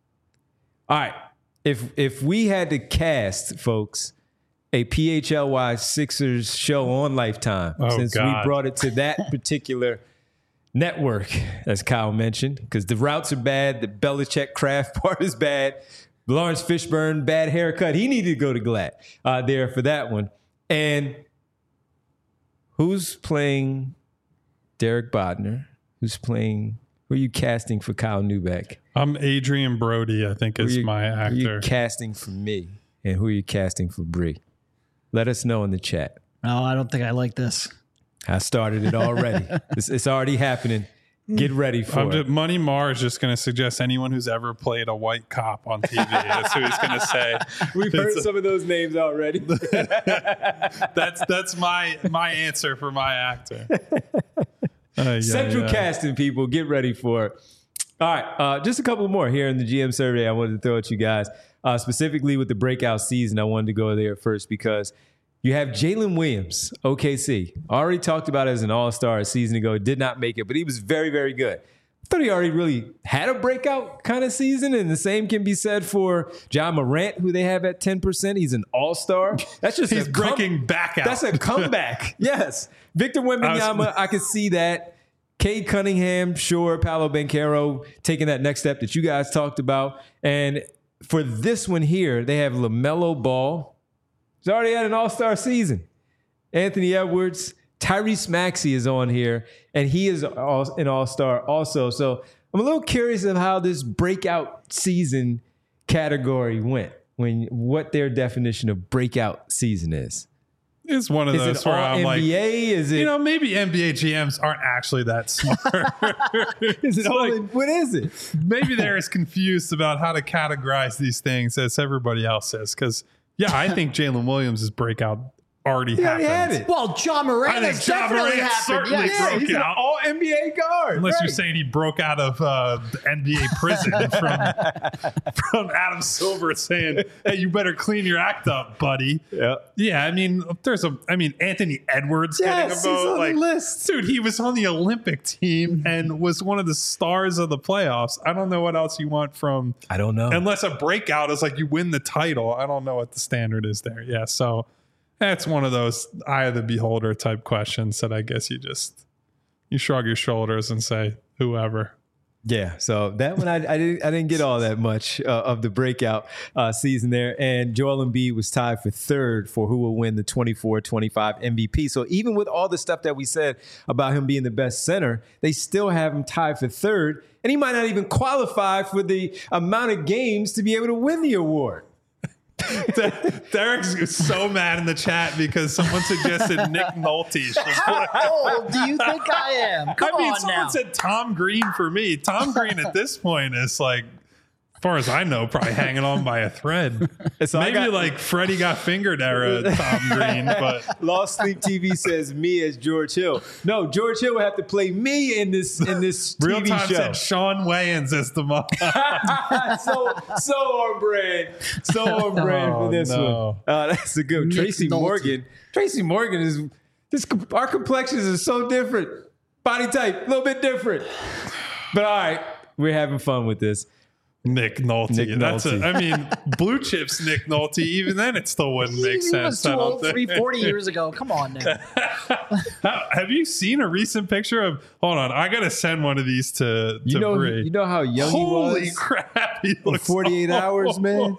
All right. If if we had to cast, folks, a P H L Y Sixers show on Lifetime, Oh, since God. we brought it to that particular network, as Kyle mentioned, because the routes are bad, the Belichick Kraft part is bad. Lawrence Fishburne, bad haircut. He needed to go to Glad uh, there for that one. And who's playing Derek Bodner? Who's playing? Who are you casting for Kyle Neubeck? I'm Adrian Brody, I think is you, my actor. Who are you casting for me? And who are you casting for Bree? Let us know in the chat. No, I don't think I like this. I started it already. it's, it's already happening. Get ready for I'm it. just, Money Mar is just going to suggest anyone who's ever played a white cop on T V. That's who he's going to say. We've heard some of those names already. that's that's my my answer for my actor. Uh, yeah, Central yeah. casting, people. Get ready for it. All right. Uh, just a couple more here in the G M survey I wanted to throw at you guys. Uh, specifically with the breakout season, I wanted to go there first because you have Jalen Williams, O K C. Already talked about as an all-star a season ago. Did not make it, but he was very, very good. I thought he already really had a breakout kind of season, and the same can be said for John Morant, who they have at ten percent. He's an all-star. That's just He's a breaking come- back out. That's a comeback. Yes. Victor Wembanyama, I, was- I could see that. Cade Cunningham, sure. Paolo Banchero taking that next step that you guys talked about. And for this one here, they have LaMelo Ball. He's already had an all-star season. Anthony Edwards, Tyrese Maxey is on here, and he is all, an all-star also. So I'm a little curious of how this breakout season category went, when what their definition of breakout season is. It's one of Is those it where all I'm N like, B A? Is it, you know, maybe N B A G Ms aren't actually that smart. is it So, all, like, what is it? maybe they're as confused about how to categorize these things as everybody else is. Because, yeah, I think Jalen Williams' breakout already He already happened. had it. Well, John Morant I think has John definitely Morant happened. certainly Yes. broke Yeah, he's an out. all N B A guard. Unless right. you're saying he broke out of uh, the N B A prison from from Adam Silver saying, "Hey, you better clean your act up, buddy." Yeah. Yeah, I mean, there's a, I mean, Anthony Edwards Yes, getting a he's vote. on the Like, list. dude, he was on the Olympic team and was one of the stars of the playoffs. I don't know what else you want from, I don't know. unless a breakout is like you win the title. I don't know what the standard is there. Yeah, so that's one of those eye of the beholder type questions that I guess you just you shrug your shoulders and say whoever. Yeah, so that one I, I didn't I didn't get all that much uh, of the breakout uh, season there, and Joel Embiid was tied for third for who will win the twenty-four twenty-five M V P. So even with all the stuff that we said about him being the best center, they still have him tied for third, and he might not even qualify for the amount of games to be able to win the award. Derek's so mad in the chat because someone suggested Nick Nolte. should play. How old do you think I am? Come I mean, on someone now. said Tom Green for me. Tom Green at this point is like, as far as I know, probably hanging on by a thread. So I Maybe got- like Freddie got fingered era Tom Green, but Lost Sleep T V says me as George Hill. No, George Hill would have to play me in this in this Real T V Time show. said Sean Wayans as the mom. so so on brand, so on brand Oh, for this no. one. Uh, that's a good one. Nick Tracy Nolte. Morgan. Tracy Morgan is this. Our complexions are so different. Body type a little bit different. But all right, we're having fun with this. Nick Nolte. Nick That's Nolte. A, I mean, Blue Chips Nick Nolte. Even then, it still wouldn't make he sense. was too I don't old think. three, forty years ago. Come on now. How- have you seen a recent picture of? Hold on, I gotta send one of these to You to know, Bree. you know how young Holy he was. crap! He looks forty-eight hours, man.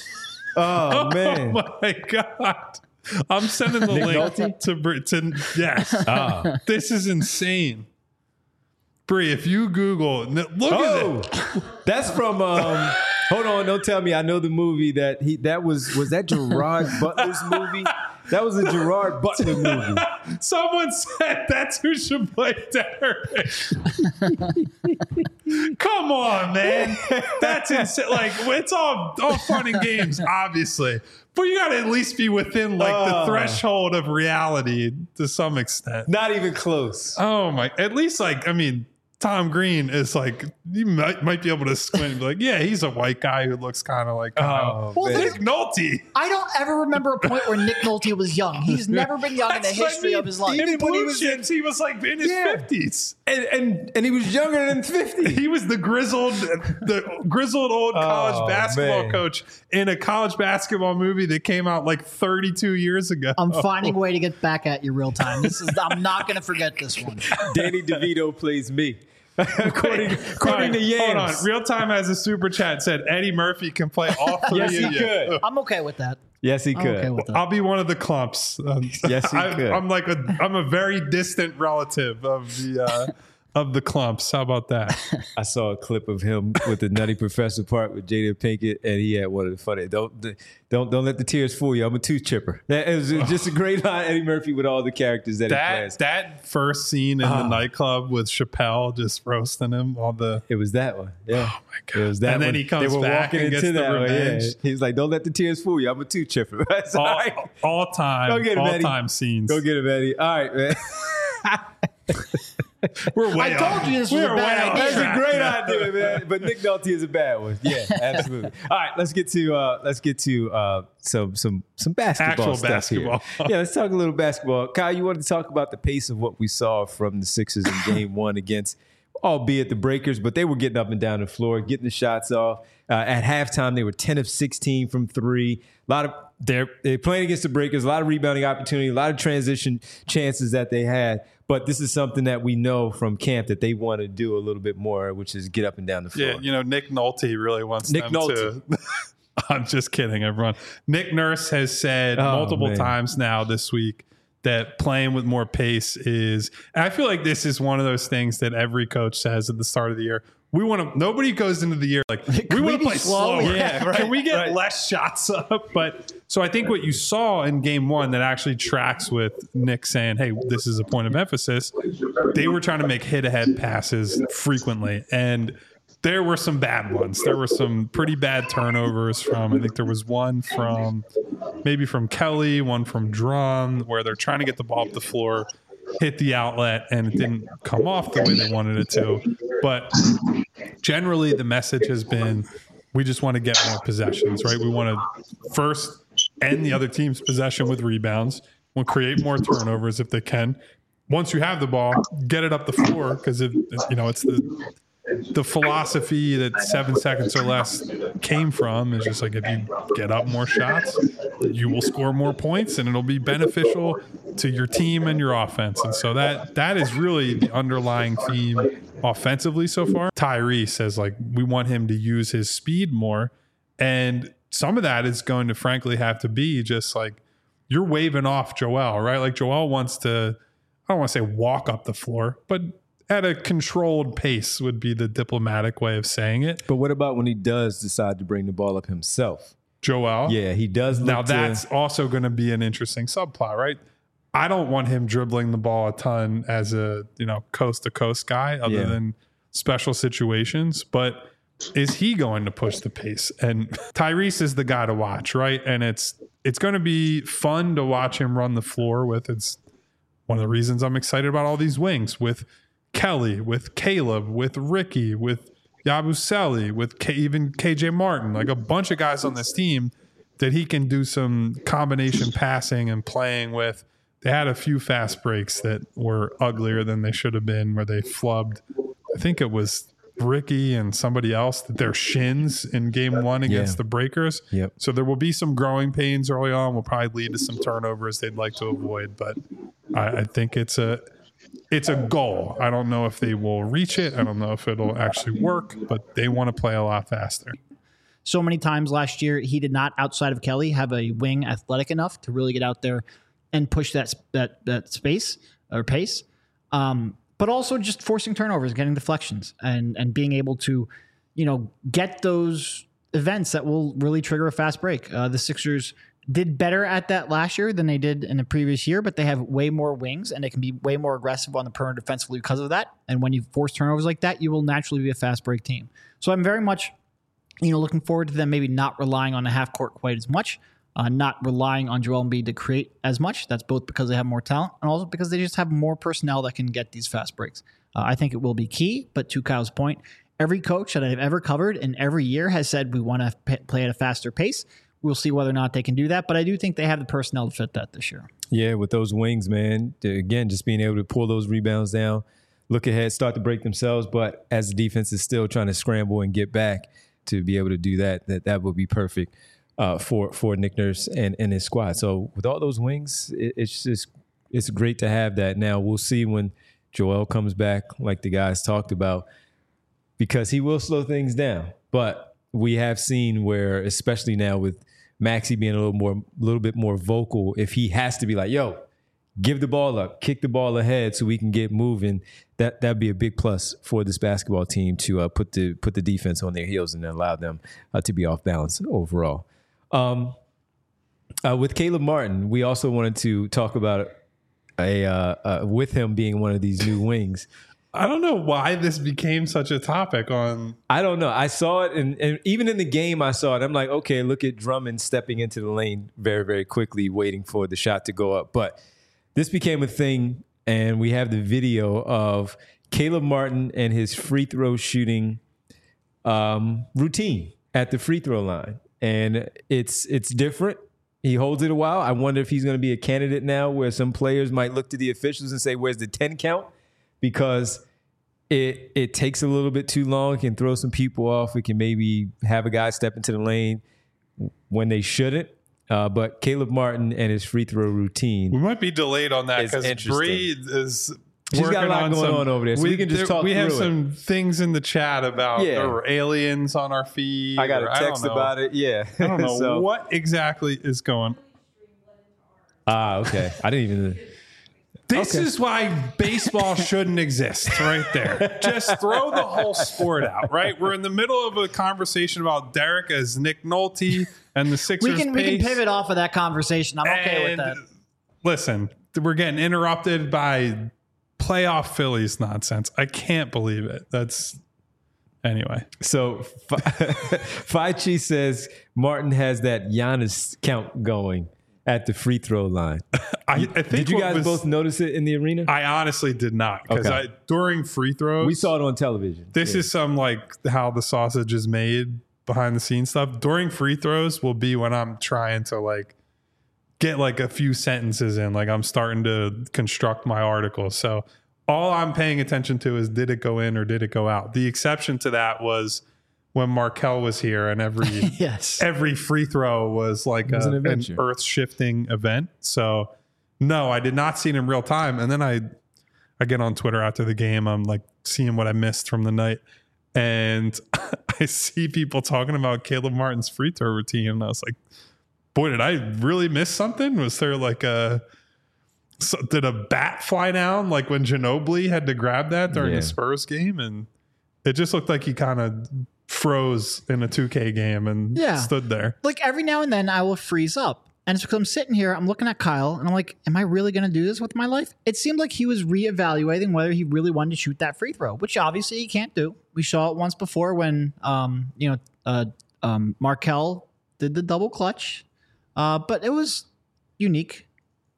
Oh man. Oh my god! I'm sending the Nick link Nolte? to Bree. To yes, Ah. this is insane. Bree, if you Google, look Oh, at it. that's from. Um, hold on, don't tell me. I know the movie that he. That was was that Gerard Butler's movie. That was a Gerard Butler movie. Someone said that's who should play Derek. Come on, man. That's insane. Like, it's all, all fun and games, obviously. But you got to at least be within, like, Oh. the threshold of reality to some extent. Not even close. Oh, my. At least, like, I mean, Tom Green is like, you might, might be able to squint and be like, yeah, he's a white guy who looks kind of like, Oh, Well, man. Nick Nolte. I don't ever remember a point where Nick Nolte was young. He's never been young in the That's what I history mean. of his life. In Even when he Blue was Chips, he was like in his Yeah. fifties. And, and and he was younger than fifty. He was the grizzled, the grizzled old college Oh, basketball man. coach in a college basketball movie that came out like thirty-two years ago. I'm finding a way to get back at you real time. This is I'm not going to forget this one. Danny DeVito plays me. according according to Yams. Hold on. Real Time has a super chat said Eddie Murphy can play all three Yes, of he you. could. I'm okay with that. Yes, he I'm could. okay with that. I'll be one of the clumps. Um, Yes, he I, could. I'm like a I'm a very distant relative of the uh, of the clumps. How about that? I saw a clip of him with the Nutty Professor part with Jada Pinkett, and he had one of the funny. Don't don't don't let the tears fool you. I'm a tooth chipper. That it was just a great line. Eddie Murphy with all the characters that, That he plays. that first scene in Oh. the nightclub with Chappelle just roasting him. All the It was that one. Yeah. oh my god! It was that and then one. he comes they were back walking and gets into the that one, revenge. yeah. He's like, "Don't let the tears fool you. I'm a tooth chipper." That's all All, right. all time, Go get him, all Eddie. time scenes. Go get him, Eddie. All right, man. We're way I told off. you this was We're a bad way off idea. That's a track great now. idea, man. But Nick Nolte is a bad one. Yeah, absolutely. All right, let's get to uh, let's get to uh, some some some basketball Actual stuff basketball. here. Yeah, let's talk a little basketball. Kyle, you wanted to talk about the pace of what we saw from the Sixers in Game One against, albeit the Breakers, but they were getting up and down the floor, getting the shots off. Uh, at halftime, they were ten of sixteen from three. A lot of they're they're playing against the Breakers. A lot of rebounding opportunity, a lot of transition chances that they had. But this is something that we know from camp that they want to do a little bit more, which is get up and down the floor. Yeah, you know, Nick Nolte really wants Nick them Nolte. to. I'm just kidding, everyone. Nick Nurse has said Oh, multiple man. times now this week that playing with more pace is. And I feel like this is one of those things that every coach says at the start of the year. We want to. Nobody goes into the year like we we want to be play slow? slower. Yeah, right, Can we get right. less shots up? But so I think what you saw in game one that actually tracks with Nick saying, "Hey, this is a point of emphasis." They were trying to make hit-ahead passes frequently, and there were some bad ones. There were some pretty bad turnovers from. I think there was one from maybe from Kelly, one from Drum, where they're trying to get the ball up the floor, hit the outlet, and it didn't come off the way they wanted it to. But generally, the message has been we just want to get more possessions, right? We want to first end the other team's possession with rebounds. We'll create more turnovers if they can. Once you have the ball, get it up the floor because you know it's the the philosophy that seven seconds or less came from is just like if you get up more shots, you will score more points and it'll be beneficial to your team and your offense. And so that that is really the underlying theme offensively so far. Tyrese says like we want him to use his speed more. And some of that is going to frankly have to be just like you're waving off Joel, right? Like Joel wants to, I don't want to say walk up the floor, but at a controlled pace would be the diplomatic way of saying it. But what about when he does decide to bring the ball up himself? Joel. Yeah, he does. Look Now to- that's also going to be an interesting subplot, right? I don't want him dribbling the ball a ton as a, you know, coast to coast guy other Yeah. than special situations, but is he going to push the pace? And Tyrese is the guy to watch, right? And it's it's going to be fun to watch him run the floor with. It's one of the reasons I'm excited about all these wings with Kelly, with Caleb, with Ricky, with Yabusele, with K, even K J Martin, like a bunch of guys on this team that he can do some combination passing and playing with. They had a few fast breaks that were uglier than they should have been, where they flubbed. I think it was Ricky and somebody else, their shins in game one against Yeah. the Breakers. Yep. So there will be some growing pains early on. Will probably lead to some turnovers they'd like to avoid. But I, I think it's a it's a goal. I don't know if they will reach it. I don't know if it'll actually work, but they want to play a lot faster. So many times last year, he did not, outside of Kelly, have a wing athletic enough to really get out there and push that that that space or pace. Um, but also just forcing turnovers, getting deflections, and and being able to, you know, get those events that will really trigger a fast break. Uh, the Sixers did better at that last year than they did in the previous year, but they have way more wings and they can be way more aggressive on the perimeter defensively because of that. And when you force turnovers like that, you will naturally be a fast break team. So I'm very much, you know, looking forward to them maybe not relying on the half court quite as much, uh, not relying on Joel Embiid to create as much. That's both because they have more talent and also because they just have more personnel that can get these fast breaks. Uh, I think it will be key, but to Kyle's point, every coach that I've ever covered and every year has said we want to p- play at a faster pace. We'll see whether or not they can do that, but I do think they have the personnel to fit that this year. Yeah, with those wings, man. Again, just being able to pull those rebounds down, look ahead, start to break themselves, but as the defense is still trying to scramble and get back to be able to do that, that that would be perfect uh, for for Nick Nurse and, and his squad. So with all those wings, it, it's just it's great to have that. Now we'll see when Joel comes back, like the guys talked about, because he will slow things down. But we have seen where, especially now with Maxey being a little more, a little bit more vocal, if he has to be like, yo, give the ball up, kick the ball ahead so we can get moving, that that'd be a big plus for this basketball team to uh, put the put the defense on their heels and allow them uh, to be off balance overall. Um, uh, with Caleb Martin, we also wanted to talk about a uh, uh, with him being one of these new wings. I don't know why this became such a topic on. I don't know. I saw it, and, and even in the game, I saw it. I'm like, okay, look at Drummond stepping into the lane very, very quickly, waiting for the shot to go up. But this became a thing, and we have the video of Caleb Martin and his free throw shooting um, routine at the free throw line, and it's it's different. He holds it a while. I wonder if he's going to be a candidate now, where some players might look to the officials and say, "Where's the ten count?" Because it it takes a little bit too long. It can throw some people off. It can maybe have a guy step into the lane when they shouldn't. Uh, but Caleb Martin and his free throw routine. We might be delayed on that It's because interesting. Bree is She's working got a lot on going some, on over there, so we can just there- talk We have through it. some things in the chat about Yeah. there were aliens on our feed. I got or a text don't know. about it. Yeah. I don't know So- what exactly is going. Ah, okay. I didn't even. This Okay. is why baseball shouldn't exist right there. Just throw the whole sport out, right? We're in the middle of a conversation about Derek as Nick Nolte and the Sixers We can we can pace. pivot off of that conversation. I'm okay with And that. Listen, we're getting interrupted by playoff Phillies nonsense. I can't believe it. That's anyway. So Faichi says Martin has that Giannis count going at the free throw line. I, I think Did you what guys was- both notice it in the arena? I honestly did not because Okay. I during free throws We saw it on television. This Yeah. is some like how the sausage is made behind the scenes stuff. During free throws will be when I'm trying to like get like a few sentences in, like I'm starting to construct my article. So all I'm paying attention to is did it go in or did it go out? The exception to that was when Markelle was here and every Yes. every free throw was like was a, an an, adventure. earth-shifting event. So no, I did not see it in real time. And then I I get on Twitter after the game. I'm like seeing what I missed from the night. And I see people talking about Caleb Martin's free throw routine. And I was like, boy, did I really miss something? Was there like a so, did a bat fly down like when Ginobili had to grab that during Yeah. the Spurs game? And it just looked like he kind of froze in a two K game and Yeah. stood there. Like every now and then I will freeze up. And it's because I'm sitting here, I'm looking at Kyle, and I'm like, am I really going to do this with my life? It seemed like he was reevaluating whether he really wanted to shoot that free throw, which obviously he can't do. We saw it once before when, um, you know, uh, um, Markelle did the double clutch. Uh, but it was unique.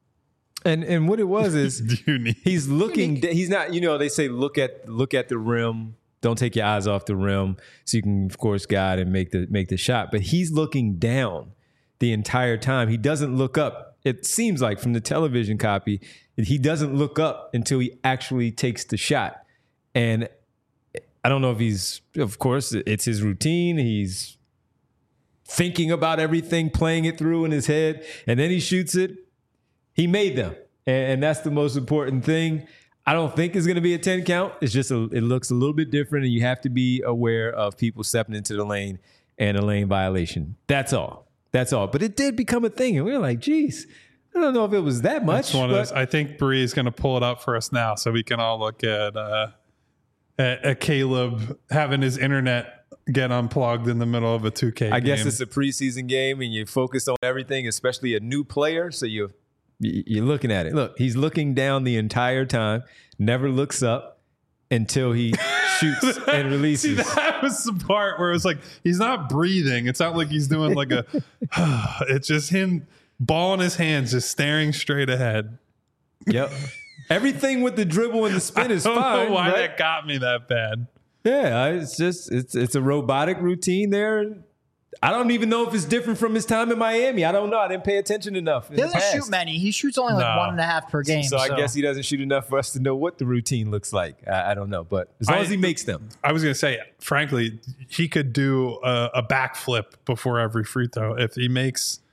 And and what it was is Unique. he's looking. He's not. You know, they say look at look at the rim. Don't take your eyes off the rim, so you can, of course, guide and make the make the shot. But he's looking down the entire time. He doesn't look up. It seems like from the television copy, he doesn't look up until he actually takes the shot. And I don't know if he's, of course, it's his routine. He's thinking about everything, playing it through in his head, and then he shoots it. He made them, and, and that's the most important thing. I don't think it's going to be a ten count. It's just a, it looks a little bit different, and you have to be aware of people stepping into the lane and a lane violation. That's all. That's all. But it did become a thing, and we were like, geez, I don't know if it was that much. It's one of but- those. I think Bree is going to pull it up for us now, so we can all look at uh, at, at Caleb having his internet get unplugged in the middle of a two K. I game. guess it's a preseason game, and you're focused on everything, especially a new player. So you you're looking at it. Look, he's looking down the entire time, never looks up until he shoots and releases. See, that was the part where it was like he's not breathing. It's not like he's doing like a. It's just him, ball in his hands, just staring straight ahead. Yep. Everything with the dribble and the spin is I don't fine. know why right? that got me that bad. Yeah, it's just it's it's a robotic routine there. I don't even know if it's different from his time in Miami. I don't know. I didn't pay attention enough. in He the doesn't past. shoot many. He shoots only like No. one and a half per game. So, So, I guess he doesn't shoot enough for us to know what the routine looks like. I, I don't know, but as long I- as he makes them. I was going to say, frankly, he could do a, a backflip before every free throw if he makes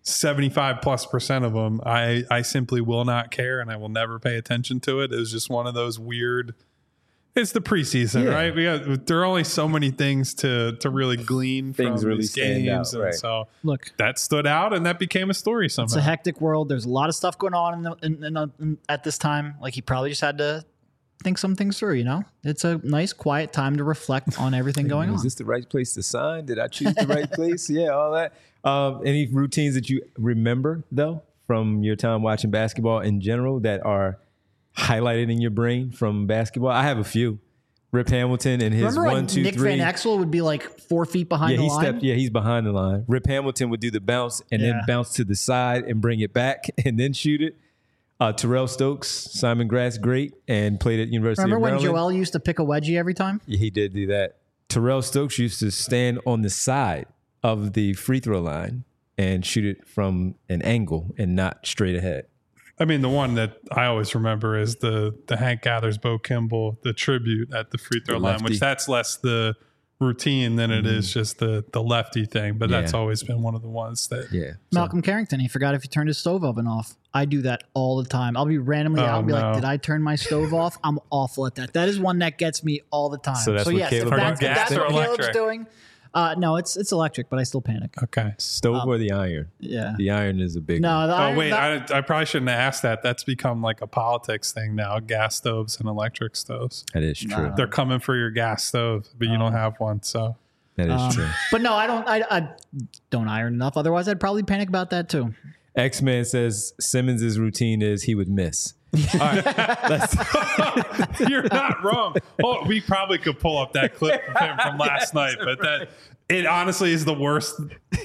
seventy-five plus percent of them, I, I simply will not care and I will never pay attention to it. It was just one of those weird, it's the preseason, Yeah. right? We got, there are only so many things to, to really glean Things from really these stand games. out, And right. so Look, that stood out and that became a story somehow. it's a hectic world. There's a lot of stuff going on in the, in, in, uh, in, at this time. Like he probably just had to think some things through, you know? It's a nice, quiet time to reflect on everything going Is on. this the right place to sign? Did I choose the right place? Yeah, all that. Um, any routines that you remember, though, from your time watching basketball in general that are highlighted in your brain from basketball? I have a few. Rip Hamilton and his Remember one, when two, Nick three. Van Exel would be like four feet behind Yeah, the he line? stepped. Yeah, he's behind the line. Rip Hamilton would do the bounce and then Yeah. bounce to the side and bring it back and then shoot it. Uh, Terrell Stokes, Simon Grass, great, and played at University Remember of when Maryland. Joel used to pick a wedgie every time? Yeah, he did do that. Terrell Stokes used to stand on the side of the free throw line and shoot it from an angle and not straight ahead. I mean, the one that I always remember is the the Hank Gathers, Bo Kimball, the tribute at the free throw The line, lefty. which that's less the routine than it is just the the lefty thing. But that's Yeah. always been one of the ones that. Yeah. Malcolm Carrington, he forgot if he turned his stove oven off. I do that all the time. I'll be randomly Oh, out and be no. like, did I turn my stove off? I'm awful at that. That is one that gets me all the time. So that's what yes, Caleb if that's, does. if that's Gas or what Caleb's electric? doing. Uh, no, it's it's electric, but I still panic. Okay. Stove or the iron? Yeah. The iron is a big No, one. the Oh iron- wait, that- I, I probably shouldn't have asked that. That's become like a politics thing now. Gas stoves and electric stoves. That is true. No. They're coming for your gas stove, but you don't have one. So That is um, true. but no, I don't. I, I don't iron enough. Otherwise, I'd probably panic about that too. X-Man says Simmons' routine is he would miss. All right. Let's, you're not wrong. Oh, we probably could pull up that clip of him from last night, but that it honestly is the worst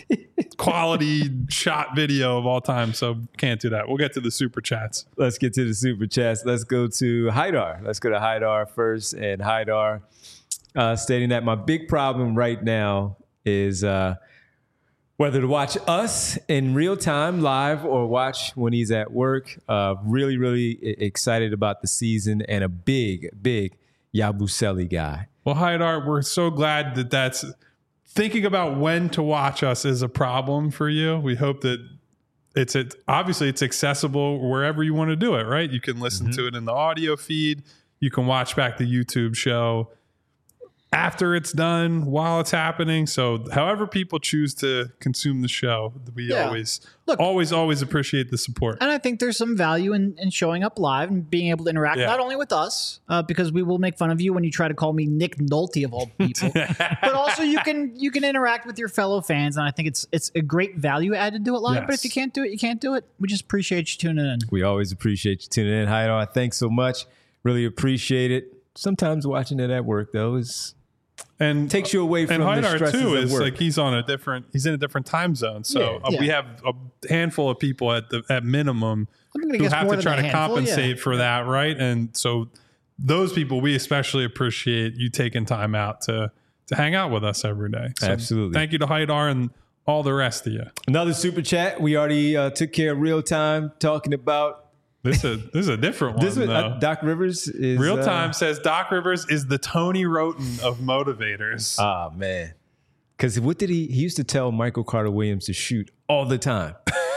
quality shot video of all time. So can't do that. We'll get to the super chats. let's get to the super chats. Let's go to Haidar. Let's go to Haidar first. And Haidar uh, stating that my big problem right now is uh, whether to watch us in real time live or watch when he's at work. Uh, really, really e- excited about the season and a big, big Yabusele guy. Well, Haidar, we're so glad that that's thinking about when to watch us is a problem for you. We hope that it's it, obviously it's accessible wherever you want to do it, right? You can listen Mm-hmm. to it in the audio feed. You can watch back the YouTube show after it's done, while it's happening. So however people choose to consume the show, we Yeah. always, Look- always, always appreciate the support. And I think there's some value in, in showing up live and being able to interact Yeah. not only with us, uh, because we will make fun of you when you try to call me Nick Nolte of all people, but also you can you can interact with your fellow fans, and I think it's it's a great value add to do it live. But if Yes. you can't do it, you can't do it. We just appreciate you tuning in. We always appreciate you tuning in. Haidar, thanks so much. Really appreciate it. Sometimes watching it at work, though, is And takes you away from and the Haidar stresses too of is work. like he's on a different he's in a different time zone. So Yeah. uh, we Yeah. have a handful of people at the at minimum I'm gonna who guess have more to than try a to handful, yeah. compensate for that, right? And so those people, we especially appreciate you taking time out to to hang out with us every day. So Absolutely. Thank you to Haidar and all the rest of you. Another super chat. We already uh, took care of real time talking about This is this is a different one. this. Was, though. uh, Doc Rivers is Real uh, time says Doc Rivers is the Tony Roten of motivators. Ah man, because what did he? He used to tell Michael Carter Williams to shoot all the time.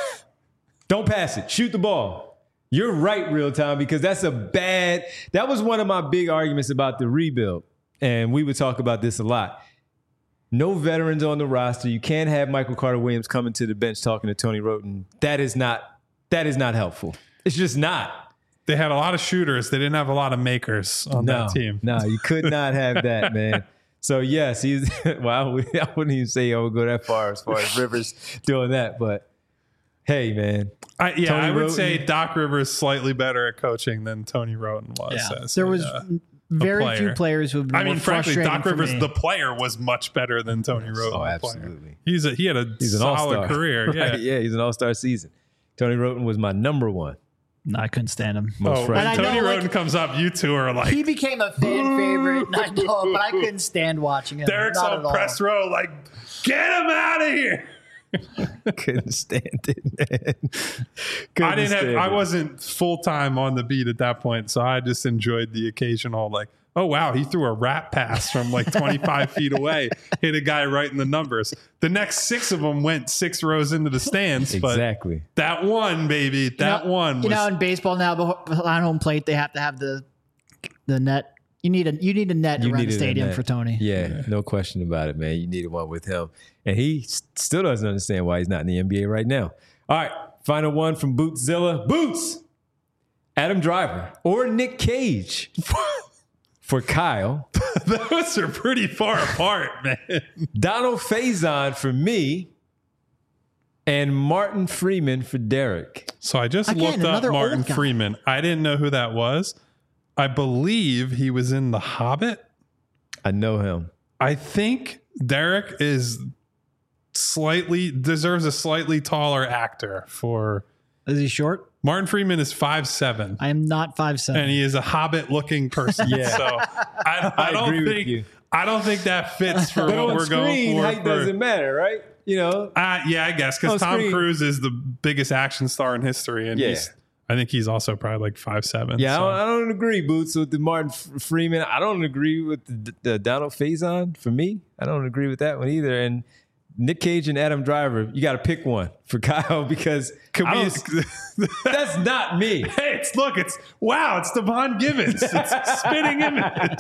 Don't pass it. Shoot the ball. You're right, real time, because that's a bad. That was one of my big arguments about the rebuild, and we would talk about this a lot. No veterans on the roster. You can't have Michael Carter Williams coming to the bench talking to Tony Roten. That is not. That is not helpful. It's just not. They had a lot of shooters. They didn't have a lot of makers on No, that team. no, you could not have that, man. So yes, he's. Well, I, would, I wouldn't even say I would go that far as far as Rivers doing that, but hey, man, I, yeah, Tony I would Roten. say Doc Rivers slightly better at coaching than Tony Roten was. Yeah. as There a, was uh, very player. few players who have been I mean, more frankly, frustrating Doc for Rivers, me. the player, was much better than Tony Roten. Oh, the absolutely. Player. He's a he had a he's an solid all-star career. Yeah. Right, yeah, he's an all-star season. Tony Roten was my number one. No, I couldn't stand him. Most Oh, frustrating. when And I Tony know, Roten like- comes up, you two are like He became a fan favorite, and I know, but I couldn't stand watching him. Derek's Not on at all. press row, like get him out of here. Couldn't stand it, man. Couldn't I didn't have. stand I it. wasn't full time on the beat at that point, so I just enjoyed the occasional like, oh, wow, he threw a rat pass from like twenty-five feet away, hit a guy right in the numbers. The next six of them went six rows into the stands. Exactly. But that one, baby, that you know, one was. You know, in baseball now, behind home plate, they have to have the the net. You need a you need a net You around the needed a stadium net. for Tony. Yeah, Yeah. no question about it, man. You needed one with him. And he s- still doesn't understand why he's not in the N B A right now. All right, final one from Bootszilla. Boots! Adam Driver or Nick Cage for Kyle. Those are pretty far apart, man. Donald Faison for me. And Martin Freeman for Derek. So I just Again, looked up another Martin old guy. Freeman. I didn't know who that was. I believe he was in The Hobbit. I know him. I think Derek is slightly deserves a slightly taller actor for Is he short? Martin Freeman is five seven. I am not five seven. And he is a hobbit looking person. Yeah. So I, I, I don't agree with think you. I don't think that fits for But what on we're going screen, for. height for- doesn't matter, right? You know, Uh, yeah, I guess because On Tom screen. Cruise is the biggest action star in history, and Yeah. he's, I think he's also probably like five seven. yeah, so. I, don't, I don't agree, Boots, with the Martin F- Freeman. I don't agree with the, the Donald Faison for me. I don't agree with that one either. And Nick Cage and Adam Driver, you got to pick one for Kyle because Can I we- don't- that's not me. Hey, it's look, it's wow, it's Devon Givens. It's spitting image.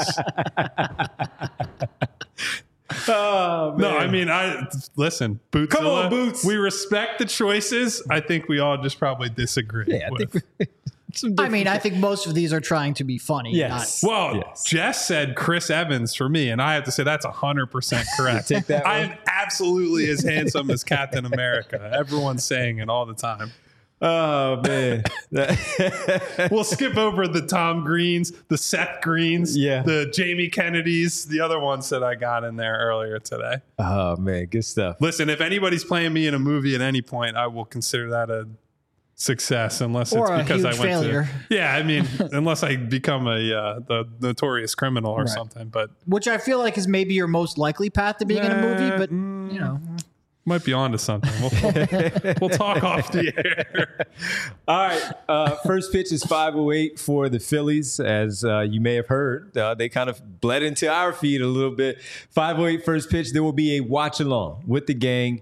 Oh, man. No, I mean, I listen, Bootzilla, Come on, Boots. we respect the choices. I think we all just probably disagree. yeah, I with. think some I mean, I different- think most of these are trying to be funny. Yes. Well, Yes. Jess said Chris Evans for me, and I have to say that's one hundred percent correct. Take that I one. am absolutely as handsome as Captain America. Everyone's saying it all the time. Oh, man. We'll skip over the Tom Greens, the Seth Greens, Yeah. the Jamie Kennedys, the other ones that I got in there earlier today. Oh, man. Good stuff. Listen, if anybody's playing me in a movie at any point, I will consider that a success, unless Or it's a because I huge went failure. to. Yeah, I mean, unless I become a uh, the notorious criminal or Right. something, but Which I feel like is maybe your most likely path to being in a movie, but Mm, you know, might be onto something. We'll, we'll talk off the air. All right. Uh, first pitch is five oh eight for the Phillies. As uh, you may have heard, uh, they kind of bled into our feed a little bit. five oh eight first pitch. There will be a watch along with the gang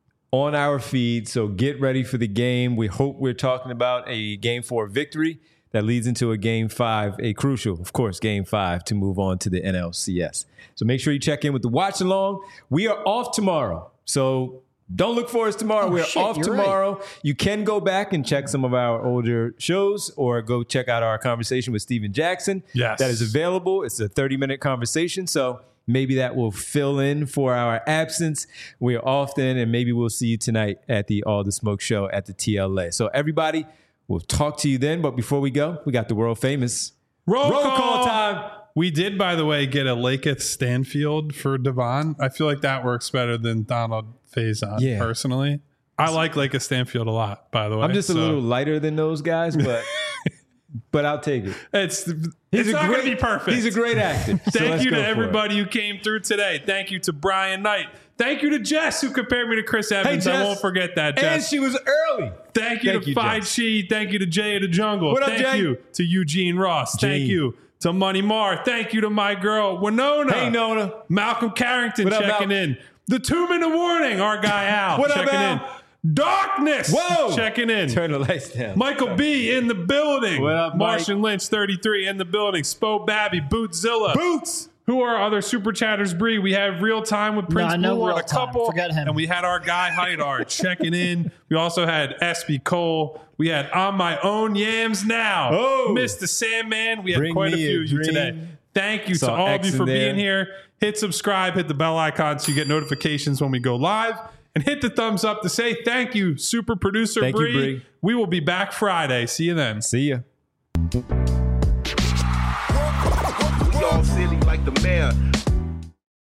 on our feed. So get ready for the game. We hope we're talking about a game four victory that leads into a game five, a crucial, of course, game five to move on to the N L C S. So make sure you check in with the watch along. We are off tomorrow. So don't look for us tomorrow. Oh, We're shit, off you're tomorrow. You can go back and check some of our older shows or go check out our conversation with Steven Jackson. Yes. That is available. It's a thirty minute conversation. So maybe that will fill in for our absence. We're off then, and maybe we'll see you tonight at the All the Smoke show at the T L A. So everybody, we'll talk to you then. But before we go, we got the world famous Roll, roll call. call time. We did, by the way, get a Laketh Stanfield for Devon. I feel like that works better than Donald Faison, Yeah. personally. I like Laketh Stanfield a lot, by the way. I'm just a so little lighter than those guys, but but I'll take it. It's, He's it's a not great, going to be perfect. He's a great actor. So Thank let's you go to for it. everybody who came through today. Thank you to Brian Knight. Thank you to Jess, who compared me to Chris Evans. I Jess. won't forget that, And Jess. she was early. Thank you Thank to you, Fi Jess. Chi. Thank you to Jay of the Jungle. What up, Thank Jay? you to Eugene Ross. Thank Gene. you to Money Marr. Thank you to my girl, Winona. Hey, Nona. Malcolm Carrington What up, checking Mal? in. The two minute warning, our guy Al What up, checking Al? in. Darkness Whoa. checking in. Turn the lights down. Michael B in the building. What up, Mike? Martian Lynch thirty-three in the building. Spo Babby, Bootzilla. Boots. Who are other super chatters, Bree? We have real time with Prince no Blue and real a time. couple. Forget him. And we had our guy Haidar checking in. We also had S B Cole. We had On My Own Yams Now. Oh. Mister Sandman. We had Bring quite a me a few of you dream. today. Thank you Saw to all X of you in for there. being here. Hit subscribe, hit the bell icon so you get notifications when we go live. And hit the thumbs up to say thank you, super producer Thank you, Bree. Bree. We will be back Friday. See you then. See ya. We all silly like the mayor.